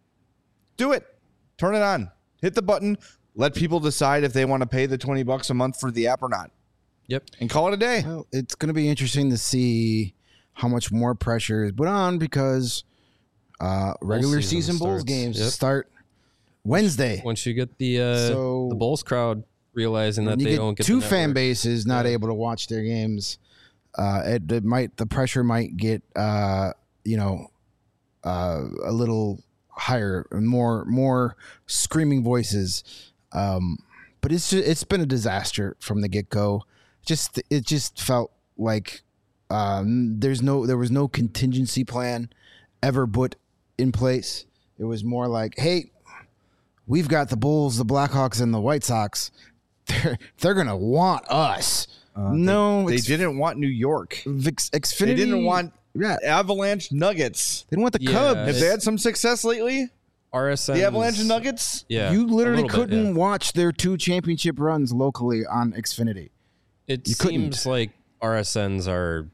Do it. Turn it on. Hit the button. Let people decide if they want to pay the twenty bucks a month for the app or not. Yep. And call it a day. Well, it's going to be interesting to see how much more pressure is put on because uh, regular season season Bulls starts. games Yep. start Wednesday. Once you get the uh, So- the Bulls crowd realizing that When you they get don't get two the fan network. bases not able to watch their games, uh, it, it might the pressure might get uh, you know uh, a little higher, more more screaming voices. Um, but it's just, it's been a disaster from the get go. Just it just felt like um, there's no there was no contingency plan ever put in place. It was more like, hey, we've got the Bulls, the Blackhawks, and the White Sox. They're they're gonna want us. no, They X- didn't want New York. X- Xfinity. They didn't want Yeah, Avalanche Nuggets. they didn't want the Yeah, Cubs. Have they had some success lately? R S N. The Avalanche and Nuggets? Yeah. you a literally little bit, couldn't yeah. watch their two championship runs locally on Xfinity. It You seems couldn't. like R S Ns are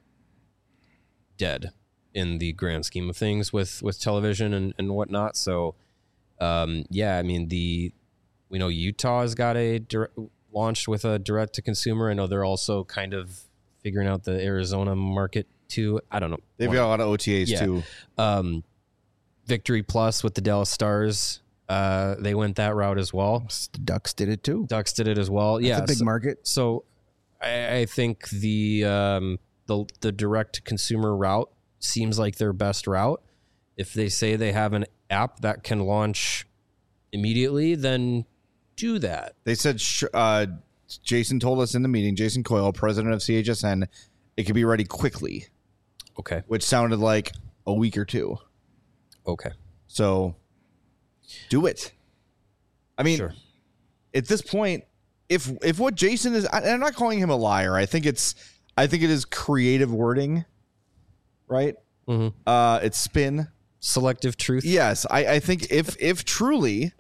dead in the grand scheme of things with, with television and, and whatnot. So, um, yeah, I mean, the we know Utah has got a direct, launched with a direct to consumer. I know they're also kind of figuring out the Arizona market too. I don't know. They've got a lot of O T As Yeah. too. Um, Victory Plus with the Dallas Stars. Uh, they went that route as well. The Ducks did it too. Ducks did it as well. It's yeah, a big so- market. So I, I think the um, the the direct consumer route seems like their best route. If they say they have an app that can launch immediately, then do that. They said sh- uh, Jason told us in the meeting, Jason Coyle, president of C H S N, it could be ready quickly, Okay. which sounded like a week or two. Okay. So do it. I mean, Sure. at this point, if if what Jason is, I, I'm not calling him a liar. I think it's, I think it is creative wording, right? Mhm. Uh, it's spin. Selective truth. Yes, I, I think if if truly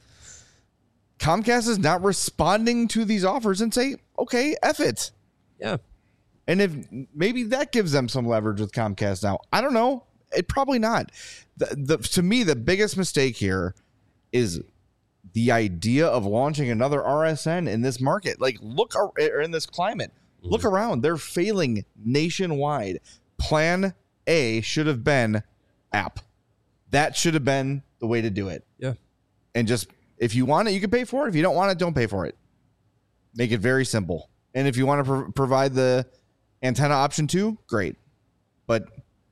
Comcast is not responding to these offers and say, okay, F it. Yeah. And if maybe that gives them some leverage with Comcast now. I don't know. It probably not. The, the, to me, the biggest mistake here is the idea of launching another R S N in this market. Like, look, ar- or in this climate, look around. They're failing nationwide. Plan A should have been app. That should have been the way to do it. Yeah. And just, if you want it, you can pay for it. If you don't want it, don't pay for it. Make it very simple. And if you want to pro- provide the antenna option too, great. But,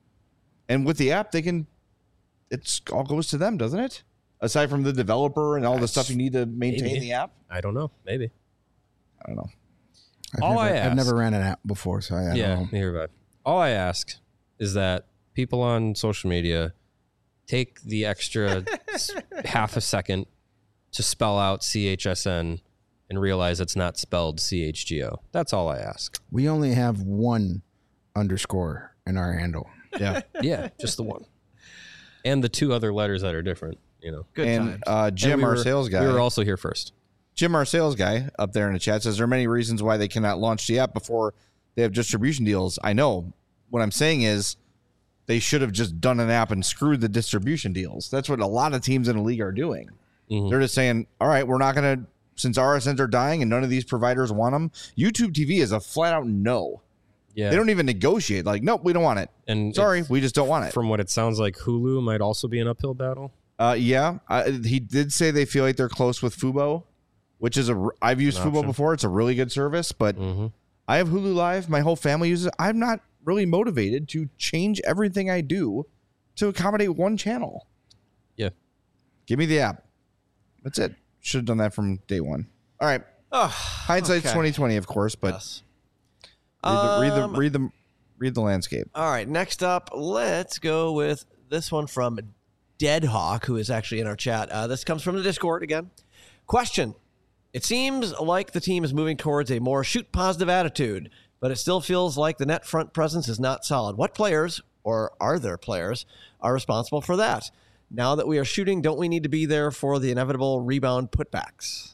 and with the app, they can, it's all goes to them, doesn't it? Aside from the developer and all the stuff you need to maintain Maybe. the app. I don't know. Maybe. I don't know. I've All never, I I've ask- never ran an app before, so I, I yeah. don't know. Neither have I. All I ask is that people on social media take the extra s- half a second to spell out C H S N and realize it's not spelled C H G O. That's all I ask. We only have one underscore in our handle. Yeah. Yeah, just the one. And the two other letters that are different, you know. Good and times. uh, And Jim, we our were- sales guy, We were also here first. Jim, our sales guy up there in the chat, says there are many reasons why they cannot launch the app before they have distribution deals. I know. What I'm saying is they should have just done an app and screwed the distribution deals. That's what a lot of teams in the league are doing. Mm-hmm. They're just saying, all right, we're not going to, since R S Ns are dying and none of these providers want them, YouTube T V is a flat out no. Yeah. They don't even negotiate. Like, nope, we don't want it. And sorry, we just don't want it. From what it sounds like, Hulu might also be an uphill battle. Uh, yeah. I, he did say they feel like they're close with Fubo, which is a, I've used Fubo before. It's a really good service, but mm-hmm. I have Hulu Live. My whole family uses it. I'm not really motivated to change everything I do to accommodate one channel. Yeah. Give me the app. That's it. Should have done that from day one. All right. Oh, hindsight's okay. twenty twenty, of course, but yes. read, the, um, read the read the read the landscape. All right. Next up, let's go with this one from Deadhawk, who is actually in our chat. Uh, this comes from the Discord again. Question. It seems like the team is moving towards a more shoot positive attitude, but it still feels like the net front presence is not solid. What players, or are there players, are responsible for that? Now that we are shooting, don't we need to be there for the inevitable rebound putbacks?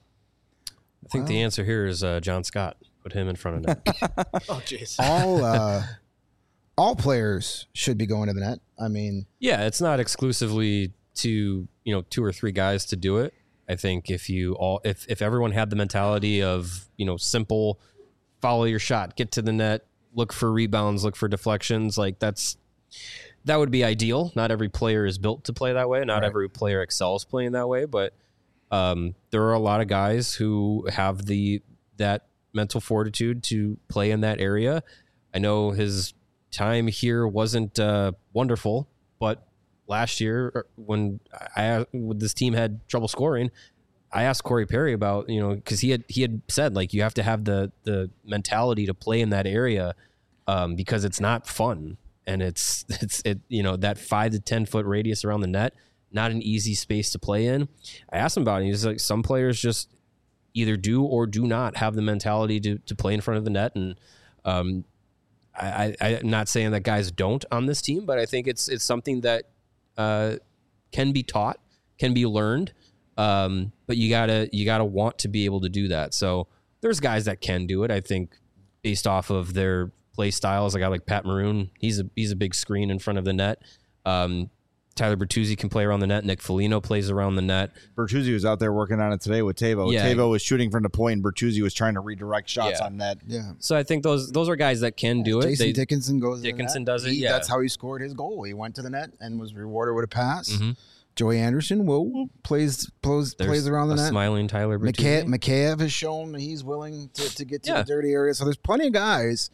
I think wow. the answer here is uh, John Scott. Put him in front of net. Oh, jeez. All, uh, all players should be going to the net. I mean... Yeah, it's not exclusively to, you know, two or three guys to do it. I think if you all, if, if everyone had the mentality of, you know, simple, follow your shot, get to the net, look for rebounds, look for deflections, like that's, that would be ideal. Not every player is built to play that way. Not right. every player excels playing that way, but um, there are a lot of guys who have the, that mental fortitude to play in that area. I know his time here wasn't uh, wonderful, but last year when I when this team had trouble scoring, I asked Corey Perry about, you know, because he had he had said like you have to have the the mentality to play in that area um, because it's not fun and it's it's it you know that five to ten foot radius around the net, not an easy space to play in. I asked him about it. He's like, some players just either do or do not have the mentality to to play in front of the net, and um, I, I I'm not saying that guys don't on this team, but I think it's it's something that Uh, can be taught, can be learned, um, but you gotta you gotta want to be able to do that. So there's guys that can do it. I think based off of their play styles, a guy like Pat Maroon, he's a he's a big screen in front of the net. Um, Tyler Bertuzzi can play around the net. Nick Foligno plays around the net. Bertuzzi was out there working on it today with Tavo. Yeah. Tavo was shooting from the point, and Bertuzzi was trying to redirect shots yeah. on net. Yeah. So I think those those are guys that can do it. Jason they, Dickinson goes. Dickinson to the net. does it. He, yeah, that's how he scored his goal. He went to the net and was rewarded with a pass. Mm-hmm. Joey Anderson, whoa, plays plays There's plays around the a net. Smiling Tyler Bertuzzi. McKayev, McKayev has shown he's willing to, to get to yeah. the dirty area. So there's plenty of guys.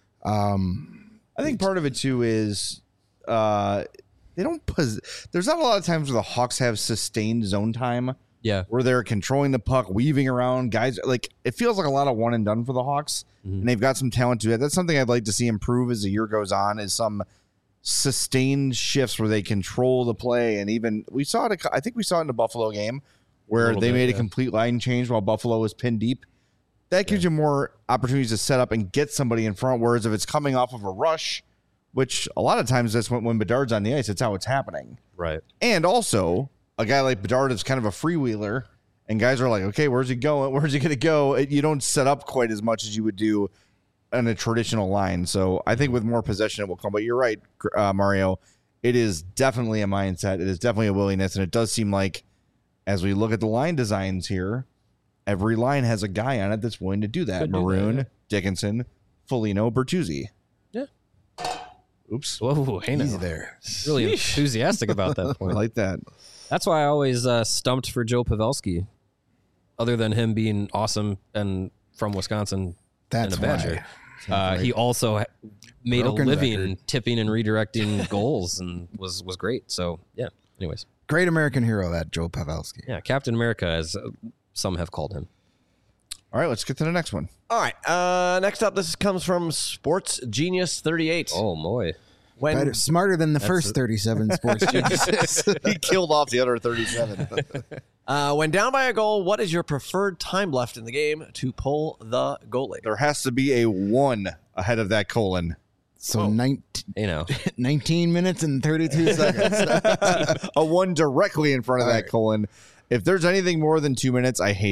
Um, I think part of it too is. Uh, They don't pos- There's not a lot of times where the Hawks have sustained zone time. Yeah. Where they're controlling the puck, weaving around guys. Like, it feels like a lot of one and done for the Hawks. Mm-hmm. And they've got some talent to do that. That's something I'd like to see improve as the year goes on, is some sustained shifts where they control the play. And even we saw it, I think we saw it in the Buffalo game where they bit, made yeah. a complete line change while Buffalo was pinned deep. That gives yeah. you more opportunities to set up and get somebody in front. Whereas if it's coming off of a rush, which a lot of times that's when, when Bedard's on the ice, it's how it's happening. Right. And also, a guy like Bedard is kind of a freewheeler, and guys are like, okay, where's he going? Where's he going to go? It, you don't set up quite as much as you would do in a traditional line. So I think with more possession, it will come. But you're right, uh, Mario. It is definitely a mindset. It is definitely a willingness. And it does seem like, as we look at the line designs here, every line has a guy on it that's willing to do that. Could Maroon, do that, yeah. Dickinson, Foligno, Bertuzzi. Yeah. Oops. Whoa, hey Easy there. Really enthusiastic about that point. I like that. That's why I always uh, stumped for Joe Pavelski. Other than him being awesome and from Wisconsin That's and a Badger. Uh, he also made Broken a living record. tipping and redirecting goals and was, was great. So, yeah. Anyways. Great American hero, that Joe Pavelski. Yeah, Captain America, as uh, some have called him. All right, let's get to the next one. All right. Uh, next up, this comes from Sports Genius thirty-eight. Oh, boy. When, Better, smarter than the first a, thirty-seven Sports Geniuses. He killed off the other thirty-seven. uh, when down by a goal, what is your preferred time left in the game to pull the goalie? There has to be a one ahead of that colon. So oh, nineteen, you know, nineteen minutes and thirty-two seconds. A one directly in front of All that right. colon. If there's anything more than two minutes, I hate it.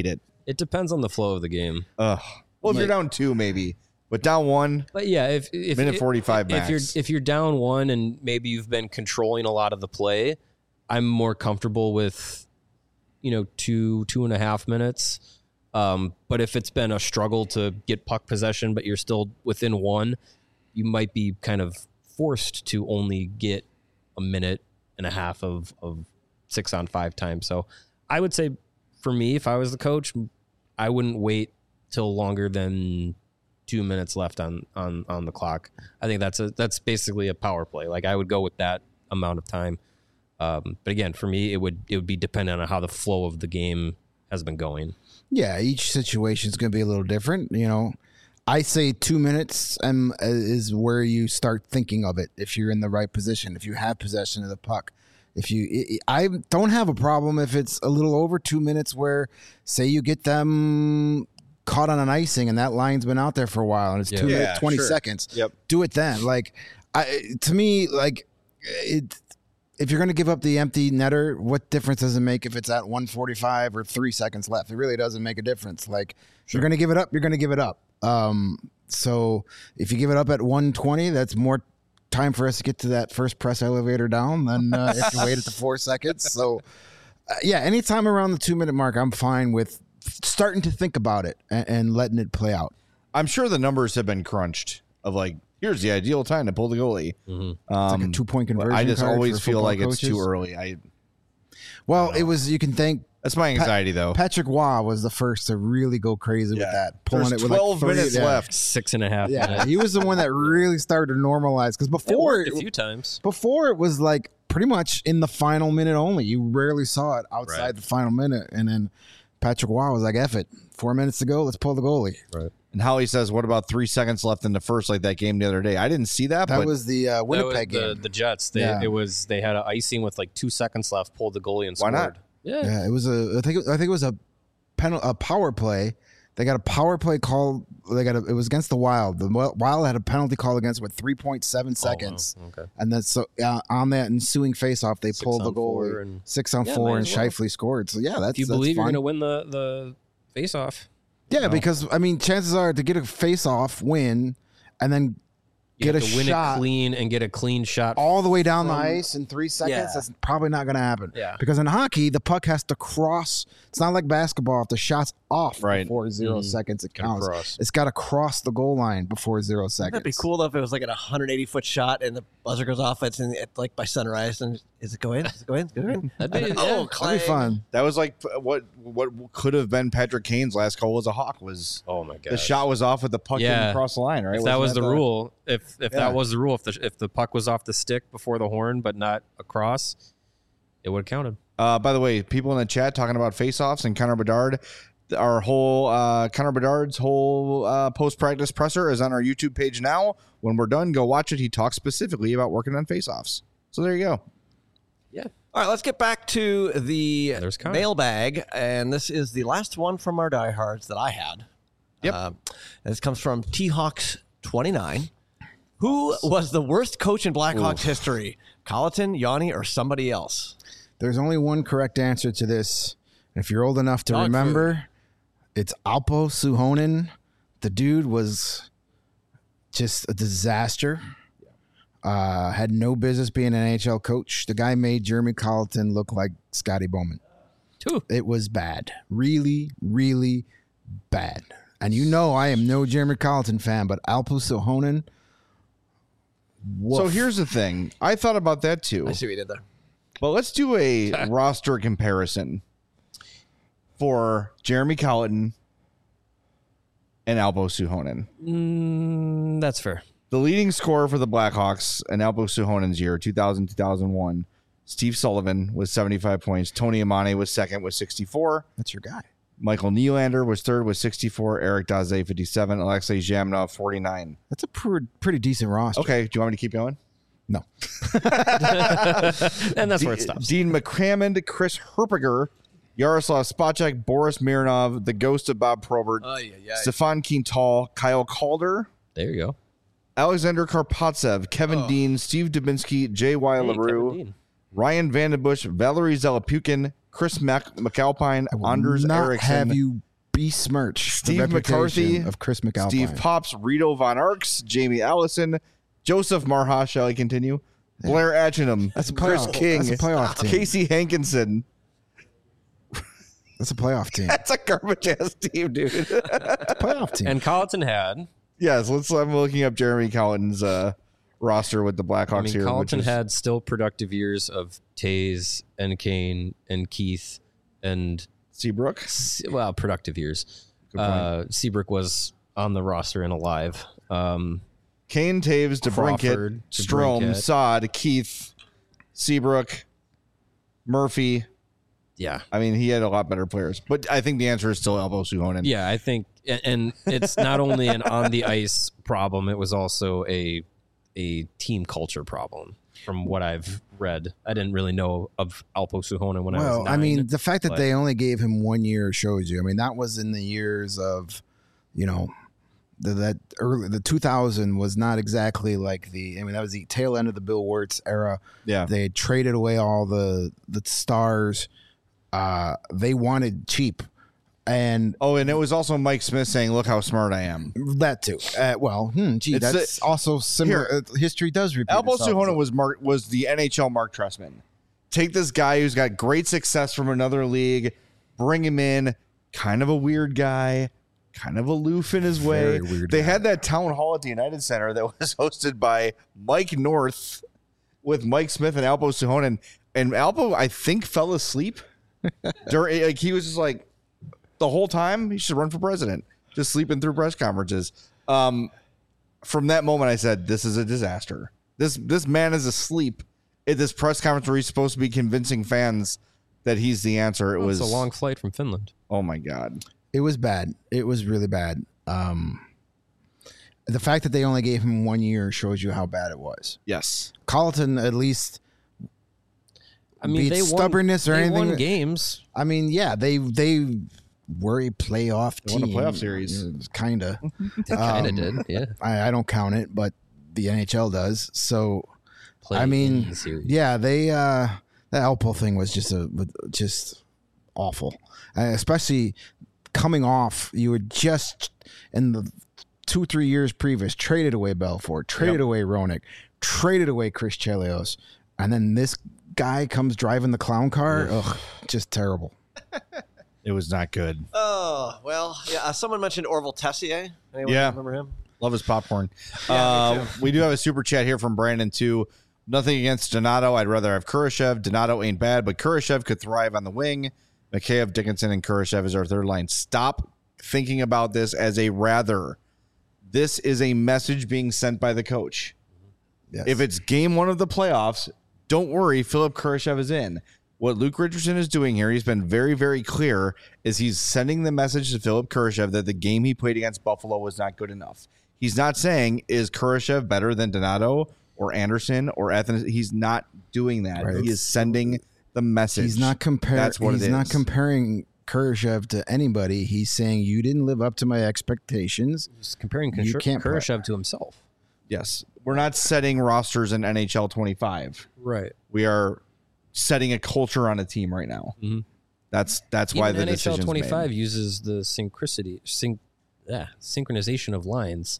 It depends on the flow of the game. Ugh. Well, if you're down two, maybe, but down one, But yeah, if, if minute if- forty-five if max. you're if you're down one and maybe you've been controlling a lot of the play, I'm more comfortable with, you know, two two and a half minutes. Um, but if it's been a struggle to get puck possession, but you're still within one, you might be kind of forced to only get a minute and a half of of six on five time. So I would say, for me, if I was the coach, I wouldn't wait till longer than two minutes left on, on, on the clock. I think that's a that's basically a power play. Like I would go with that amount of time. Um, but again, for me, it would it would be dependent on how the flow of the game has been going. Yeah, each situation is going to be a little different. You know, I say two minutes um, is where you start thinking of it. If you're in the right position, if you have possession of the puck, if you, I don't have a problem if it's a little over two minutes. Where, say, you get them caught on an icing and that line's been out there for a while and it's Yeah. two Yeah, minutes twenty sure. seconds. Yep. Do it then. Like, I to me, like it. If you're going to give up the empty netter, what difference does it make if it's at one forty-five or three seconds left? It really doesn't make a difference. Like, if you're going to give it up, you're going to give it up. Um, so if you give it up at one twenty, that's more time for us to get to that first press elevator down than uh, if you wait at the four seconds. So, uh, yeah, anytime around the two minute mark, I'm fine with starting to think about it and, and letting it play out. I'm sure the numbers have been crunched of like, here's the ideal time to pull the goalie. Mm-hmm. Um, like a two-point but conversion I just card always for feel football like it's too coaches. early. I Well, it was, you can thank that's my anxiety though. Patrick Waugh was the first to really go crazy with that, pulling There's it with twelve like three- minutes yeah. left. Six and a half Yeah, minutes. he was the one that really started to normalize because It before worked a few times. before it was like pretty much in the final minute only. You rarely saw it outside Right. the final minute, and then Patrick Waugh was like, "F it, four minutes to go, let's pull the goalie." Right. And Howie says, "What about three seconds left in the first, like that game the other day?" I didn't see that, That but was the uh, Winnipeg that was the, game. the Jets. They Yeah. it was they had an icing with like two seconds left, pulled the goalie and Why scored. not? Yeah. Yeah, it was a. I think. I think it was a penal, a power play. They got a power play call. They got a, it was against the Wild. The Wild had a penalty call against with three point seven seconds, Oh, wow. Okay. and then so uh, on that ensuing faceoff, they Six pulled the on four goalie and- six on Yeah, four, might and as well. Scheifele scored. So yeah, that's If you that's believe you're fine. going to win the the face off, Yeah, because I mean, chances are to get a face-off win, and then you get have a to win shot it clean and get a clean shot. all the way down the from- ice in three seconds. Yeah. That's probably not going to happen. Yeah. Because in hockey, the puck has to cross. It's not like basketball. If the shot's off Right. before zero Mhm. seconds, it Gotta counts. cross. It's got to cross the goal line before zero seconds. That'd be cool though if it was like a one hundred eighty foot shot and the buzzer goes off. It's in, it, like by sunrise. And is it going? Is it going? Is it going? That'd be- And- yeah, oh, That'd clang. be fun. that was like what what could have been Patrick Kane's last call was a hawk. Was Oh my god! the shot was off with the puck Yeah. didn't cross the line, right? If that Wasn't was the rule, if if Yeah. that was the rule, if the if the puck was off the stick before the horn but not across, it would have counted. Uh, by the way, people in the chat talking about face-offs and Connor Bedard. Our whole uh, Connor Bedard's whole uh, post-practice presser is on our YouTube page now. When we're done, go watch it. He talks specifically about working on face-offs. So there you go. Yeah. All right, let's get back to the There's Connor. mailbag, and this is the last one from our diehards that I had. Yep. Um, this comes from T Hawks twenty-nine. Who was the worst coach in Blackhawks history? Colleton, Yanni, or somebody else? There's only one correct answer to this. If you're old enough to Dog remember, it's Alpo Suhonen. The dude was just a disaster. Uh, had no business being an N H L coach. The guy made Jeremy Colleton look like Scotty Bowman. Two. It was bad. Really, really bad. And you know I am no Jeremy Colleton fan, but Alpo Suhonen. So here's the thing. I thought about that too. I see what you did there. But let's do a roster comparison for Jeremy Colleton and Alpo Suhonen. Mm, that's fair. The leading scorer for the Blackhawks in Alpo Suhonen's year, two thousand, two thousand one, Steve Sullivan was seventy-five points. Tony Amane was second with sixty-four. That's your guy. Michael Nylander was third with sixty-four. Eric Daze, fifty-seven. Alexei Zhamnov, forty-nine. That's a pretty, pretty decent roster. Okay, do you want me to keep going? No. And that's where it D- stops. Dean McCrammond, Chris Herpiger, Yaroslav Spacek, Boris Mironov, the ghost of Bob Probert, Stefan Quintal, Kyle Calder, There you go. Alexander Karpatsev, Kevin Dean, Steve Dubinsky, J Y. Hey, LaRue, Kevin Dean. Ryan Vandenbush, Valerie Zelapukin, Chris Mac- McAlpine, I will Anders not Eriksson, have you besmirch Steve the reputation McCarthy of Chris McAlpine. Steve Pops, Rito Von Arx, Jamie Allison, Joseph Marha, shall I continue? Blair Atchingham, That's a Chris playoff- King, that's a playoff team. Casey Hankinson. That's a playoff team. That's a garbage ass team, dude. It's a playoff team. And Colleton had. yes, let's. I'm looking up Jeremy Colleton's uh, roster with the Blackhawks I mean, here. Colleton which is, had still productive years of Taze and Kane and Keith and Seabrook. Se- well, productive years. Good point. Uh, Seabrook was on the roster and alive. Um, Kane, Taves, DeBrinket, Crawford, Strome, DeBrincat. Sod, Keith, Seabrook, Murphy. yeah, I mean, he had a lot better players, but I think the answer is still Elbo Suhonen. yeah. I think, and- and it's not only an on the ice problem; it was also a a team culture problem. From what I've read, I didn't really know of Alpo Suhonen when I was Well, nine. I mean, the fact that but- they only gave him one year shows you. I mean, that was in the years of, you know, the, that early the two thousand was not exactly like the. I mean, that was the tail end of the Bill Wirtz era. yeah. They had traded away all the the stars. Uh, they wanted cheap, and Oh, and it was also Mike Smith saying, "Look how smart I am." that too. Uh, well, hmm, gee, It's that's the- also similar. Here. uh, history does repeat. Elbo itself. Suhonen was Mark was the N H L Mark Trestman. Take this guy who's got great success from another league, bring him in, kind of a weird guy, kind of aloof in his way. Very weird They guy. had that town hall at the United Center that was hosted by Mike North with Mike Smith and Alpo Suhonen. And Alpo, I think, fell asleep. During, like he was just like the whole time he should run for president, just sleeping through press conferences. Um, from that moment, I said, "This is a disaster. This this man is asleep at this press conference where he's supposed to be convincing fans that he's the answer." It Well, was it's a long flight from Finland. Oh my god! It was bad. It was really bad. Um, the fact that they only gave him one year shows you how bad it was. Yes, Colleton at least. I mean, Be it they stubbornness won, or they anything- won games. I mean, yeah, they they were a playoff They team. won a playoff series. Kinda. They kind of Um, did, yeah. I, I don't count it, but the N H L does. So Play I in mean, the series. yeah, they uh, the Alpo thing was just a just awful, uh, especially coming off. You were just in the two three years previous traded away Belfort, traded Yep. away Roenick, traded away Chris Chelios, and then this guy comes driving the clown car. Ugh, just terrible. it was not good. Oh, well, yeah. Uh, someone mentioned Orville Tessier. Anyone Yeah. remember him? Love his popcorn. Yeah, me uh, we do have a super chat here from Brandon too. Nothing against Donato. I'd rather have Kurashev. Donato ain't bad, but Kurashev could thrive on the wing. Mikheyev, Dickinson, and Kurashev is our third line. Stop thinking about this as a rather. This is a message being sent by the coach. Yes. If it's game one of the playoffs, don't worry, Philip Kurashev is in. What Luke Richardson is doing here, he's been very, very clear, is he's sending the message to Philip Kurashev that the game he played against Buffalo was not good enough. He's not saying, is Kurashev better than Donato or Anderson or Athens? He's not doing that. Right. He is sending the message. he's not comparing. That's what he's it not is. comparing Kurashev to anybody. He's saying you didn't live up to my expectations. Just comparing You Kur- can't play. Kurashev to himself. Yes. We're not setting rosters in N H L twenty-five. Right. We are setting a culture on a team right now. Mhm. That's that's why Even the N H L decision's twenty-five made. uses the synchronicity, syn- yeah, synchronization of lines.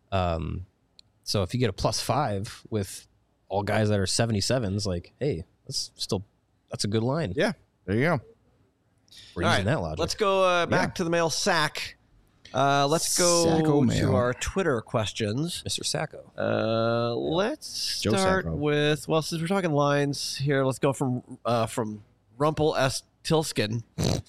Um, so if you get a plus five with all guys that are seventy-sevens, like, hey, that's still that's a good line. Yeah, there you go. We're All using right, that logic. Let's go uh, back Yeah. to the mail sack. Uh, let's go Sacco to mail. our Twitter questions. Mister Sacco. Uh, let's Joe start Sacco. with well, since we're talking lines here, let's go from uh, from Rumpel S. Tilskin.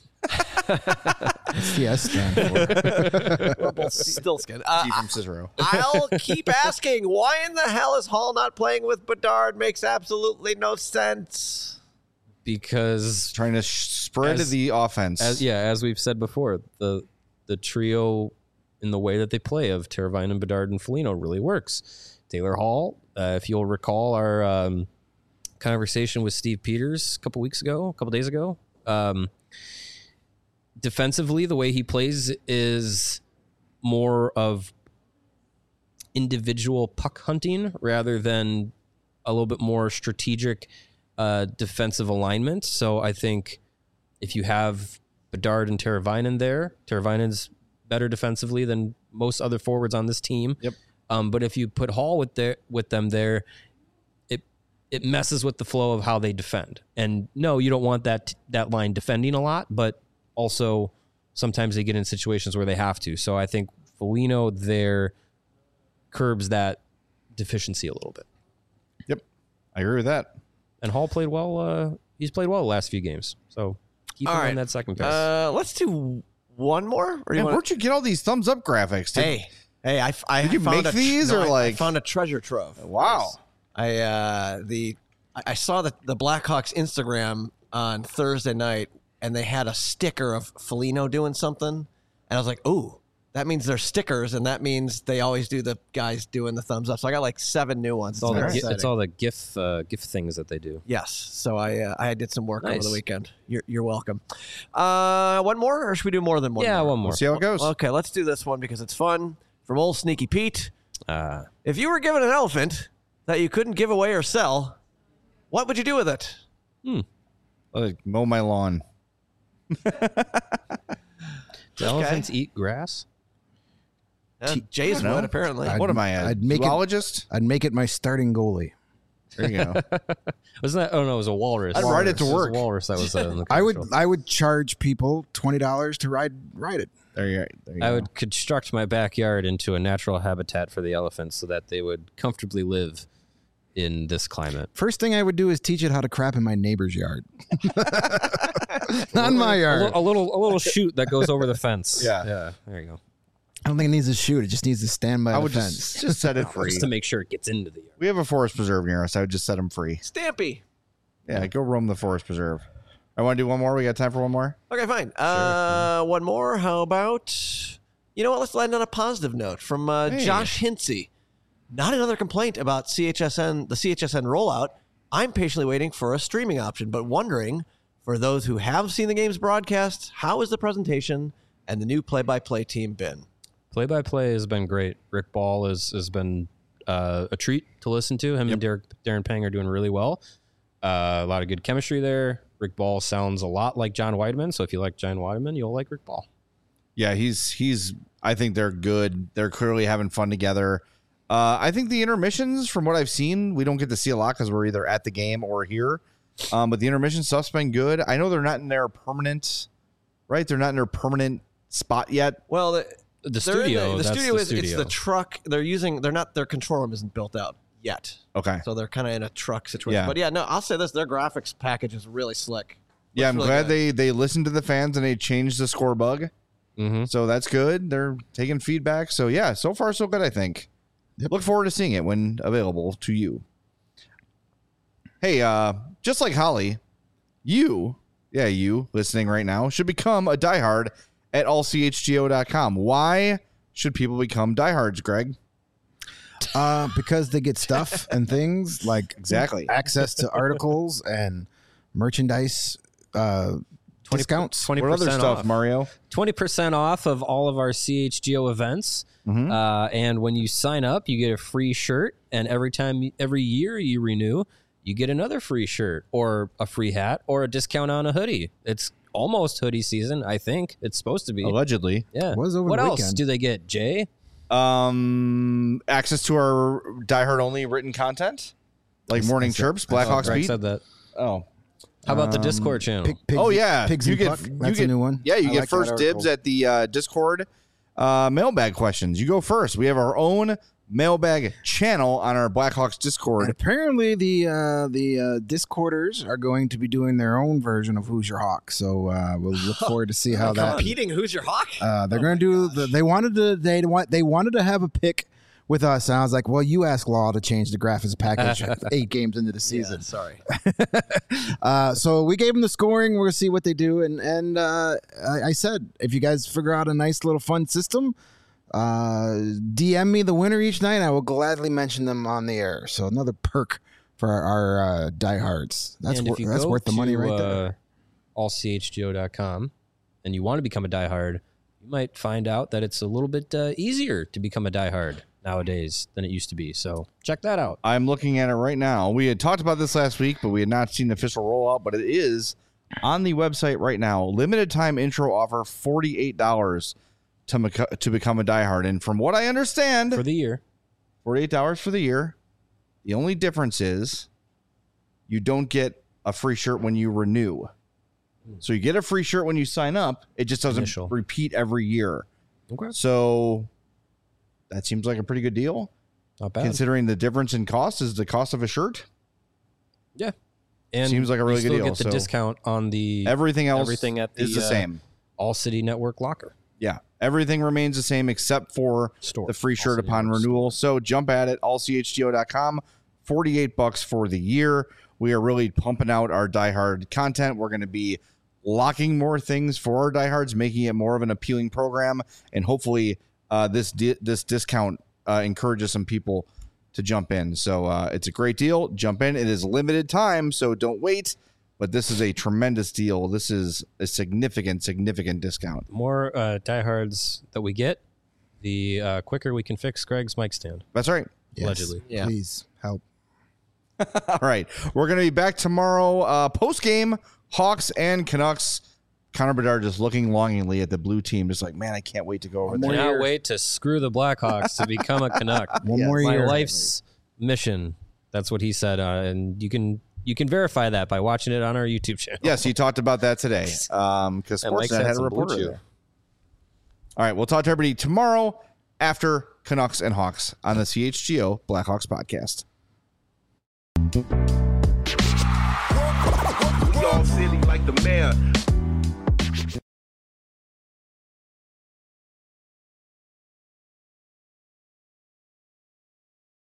What's the S stand for? Rumpel Stilskin. Uh, Keith from Cicero. I'll keep asking, why in the hell is Hall not playing with Bedard? Makes absolutely no sense. Because Trying to sh- spread As- the offense. as yeah, as we've said before, the the trio in the way that they play of Teravainen, Bedard, and Foligno really works. Taylor Hall, uh, if you'll recall our um, conversation with Steve Peters a couple weeks ago, a couple days ago, um, defensively, the way he plays is more of individual puck hunting rather than a little bit more strategic uh, defensive alignment. So I think if you have Bedard and Teravainen there. Teravainen's better defensively than most other forwards on this team. Yep. Um, but if you put Hall with their with them there, it it messes with the flow of how they defend. And no, you don't want that that line defending a lot, but also sometimes they get in situations where they have to. So I think Foligno there curbs that deficiency a little bit. Yep, I agree with that. And Hall played well. Uh, he's played well the last few games. So keep All him right. on that second pass. Uh, let's do one more. Or Man, you wanna- where'd you get all these thumbs up graphics? Did- Hey, hey, I, I Did you found make a tr- these, no, or I- I like- found a treasure trove. Wow. I uh the I I saw the the Blackhawks Instagram on Thursday night, and they had a sticker of Foligno doing something, and I was like, "Ooh, that means they're stickers, and that means they always do the guys doing the thumbs up." So I got like seven new ones. It's all, the, very gi- exciting. it's all the GIF uh, GIF things that they do. Yes. So I uh, I did some work over Nice. the weekend. You're you're welcome. Uh, one more, or should we do more than one? Yeah, more? one more. We'll see how it goes. Okay, let's do this one because it's fun. From old Sneaky Pete. Uh, If you were given an elephant that you couldn't give away or sell, what would you do with it? Like, mow my lawn. do elephants eat grass? Uh, Jay's know. would, apparently. I'd- What am I, a I'd make it- zoologist? I'd make it my starting goalie. There you go. Wasn't that? Oh no, it was a walrus. I'd ride it to It was a work. walrus that was uh, in the I would commercial. I would charge people twenty dollars to ride ride it. There you, there you I go. would construct my backyard into a natural habitat for the elephants so that they would comfortably live in this climate. First thing I would do is teach it how to crap in my neighbor's yard. Not in my A, yard. li- a little, a little chute that goes over the fence. Yeah. yeah. There you go. I don't think it needs to shoot. It just needs to stand by I the would fence. just, just set it free. Just to make sure it gets into the yard. We have a forest preserve near us. I would just set them free. Stampy. Yeah, go roam the forest preserve. I want to do one more. We got time for one more? Okay, fine. Uh, one more. How about, you know what? Let's land on a positive note from uh, Hey. Josh Hintze. Not another complaint about C H S N, the C H S N rollout. I'm patiently waiting for a streaming option, but wondering, for those who have seen the game's broadcast, how is the presentation and the new play-by-play team been? Play-by-play has been great. Rick Ball has has been uh, a treat to listen to. Him and Derek, Darren Pang are doing really well. Uh, a lot of good chemistry there. Rick Ball sounds a lot like John Weidman, so if you like John Weidman, you'll like Rick Ball. Yeah, he's he's. I think they're good. They're clearly having fun together. Uh, I think the intermissions, from what I've seen, we don't get to see a lot because we're either at the game or here. Um, but the intermission stuff's been good. I know they're not in their permanent, right? They're not in their permanent spot yet. Well, the, The they're studio, in the, the that's studio the is it's studio. the truck they're using. They're not their control room isn't built out yet, Okay. so they're kind of in a truck situation. Yeah. But yeah, no, I'll say this: their graphics package is really slick. Yeah, Looks I'm really glad good. they they listened to the fans and they changed the score bug. Mm-hmm. So that's good. They're taking feedback. So yeah, so far so good, I think. Look forward to seeing it when available to you. Hey, uh, just like Holly, you, yeah, you listening right now should become a diehard at all c h g o dot com. Why should people become diehards, Greg? Uh, because they get stuff and things like Exactly. access to articles and merchandise uh, discounts. twenty What other percent stuff, off. Mario? twenty percent off of all of our C H G O events. Mhm. Uh, and when you sign up, you get a free shirt. And every time, every year you renew, you get another free shirt or a free hat or a discount on a hoodie. It's almost hoodie season, I think. It's supposed to be. Allegedly. Yeah. Was over what the else weekend. do they get, Jay? Um, access to our diehard only written content, like Morning Chirps, Blackhawks Greg beat. said that. Oh, How about the Um, Discord channel? Pig- pigs, oh yeah, pigs you and get puck. you That's get, a new one. Yeah, you I get like that first dibs article. at the uh, Discord uh, mailbag questions. You go first. We have our own mailbag channel on our Blackhawks And Discord. apparently, the uh, the uh, Discorders are going to be doing their own version of Who's Your Hawk. So uh, we'll look forward to see how that. Competing, who's your hawk? Uh, they're going to do. The, they wanted to. They want. They wanted to have a pick with us. And I was like, well, you ask Law to change the graphics package eight games into the season. Sorry. Uh, so we gave them the scoring. We're gonna see what they do. And and uh, I, I said, if you guys figure out a nice little fun system, uh, D M me the winner each night. I will gladly mention them on the air. So another perk for our, our uh, diehards. That's and wor- if you that's go worth the money to, right uh, there. all c h g o dot com and you want to become a diehard, you might find out that it's a little bit uh, easier to become a diehard nowadays than it used to be. So check that out. I'm looking at it right now. We had talked about this last week, but we had not seen the official rollout. But it is on the website right now. Limited time intro offer, forty-eight dollars to, meca- to become a diehard. And from what I understand, For the year. forty-eight dollars for the year. The only difference is you don't get a free shirt when you renew. So you get a free shirt when you sign up. It just doesn't Initial. repeat every year. Okay. So that seems like a pretty good deal. Not bad. Considering the difference in cost is the cost of a shirt. Yeah. And Seems like a really you good still deal, get the so discount on the Everything else everything at the, is the uh, same. All City Network locker. Yeah. Everything remains the same except for Store. the free All shirt City upon Network renewal. So jump at it, all c h g o dot com. forty-eight bucks for the year. We are really pumping out our Die Hard content. We're going to be locking more things for our diehards, making it more of an appealing program, and hopefully uh, this di- this discount uh, encourages some people to jump in. So uh, it's a great deal. Jump in. It is limited time, so don't wait. But this is a tremendous deal. This is a significant, significant discount. The more uh, diehards that we get, the uh, quicker we can fix Greg's mic stand. That's right. Yes. Allegedly. Yeah. Please help. All right. We're going to be back tomorrow. Uh, post game, Hawks and Canucks. Connor Bedard just looking longingly at the blue team, just like, man, I can't wait to go over One there. more Cannot year. wait to screw the Blackhawks to become a Canuck. One more My year. life's mission. That's what he said, uh, and you can you can verify that by watching it on our YouTube channel. Yes, he talked about that today um, because And Mike's Sportsnet had had a some reporter blue chew. there. All right. We'll talk to everybody tomorrow after Canucks and Hawks on the C H G O Blackhawks podcast. We all silly like the man.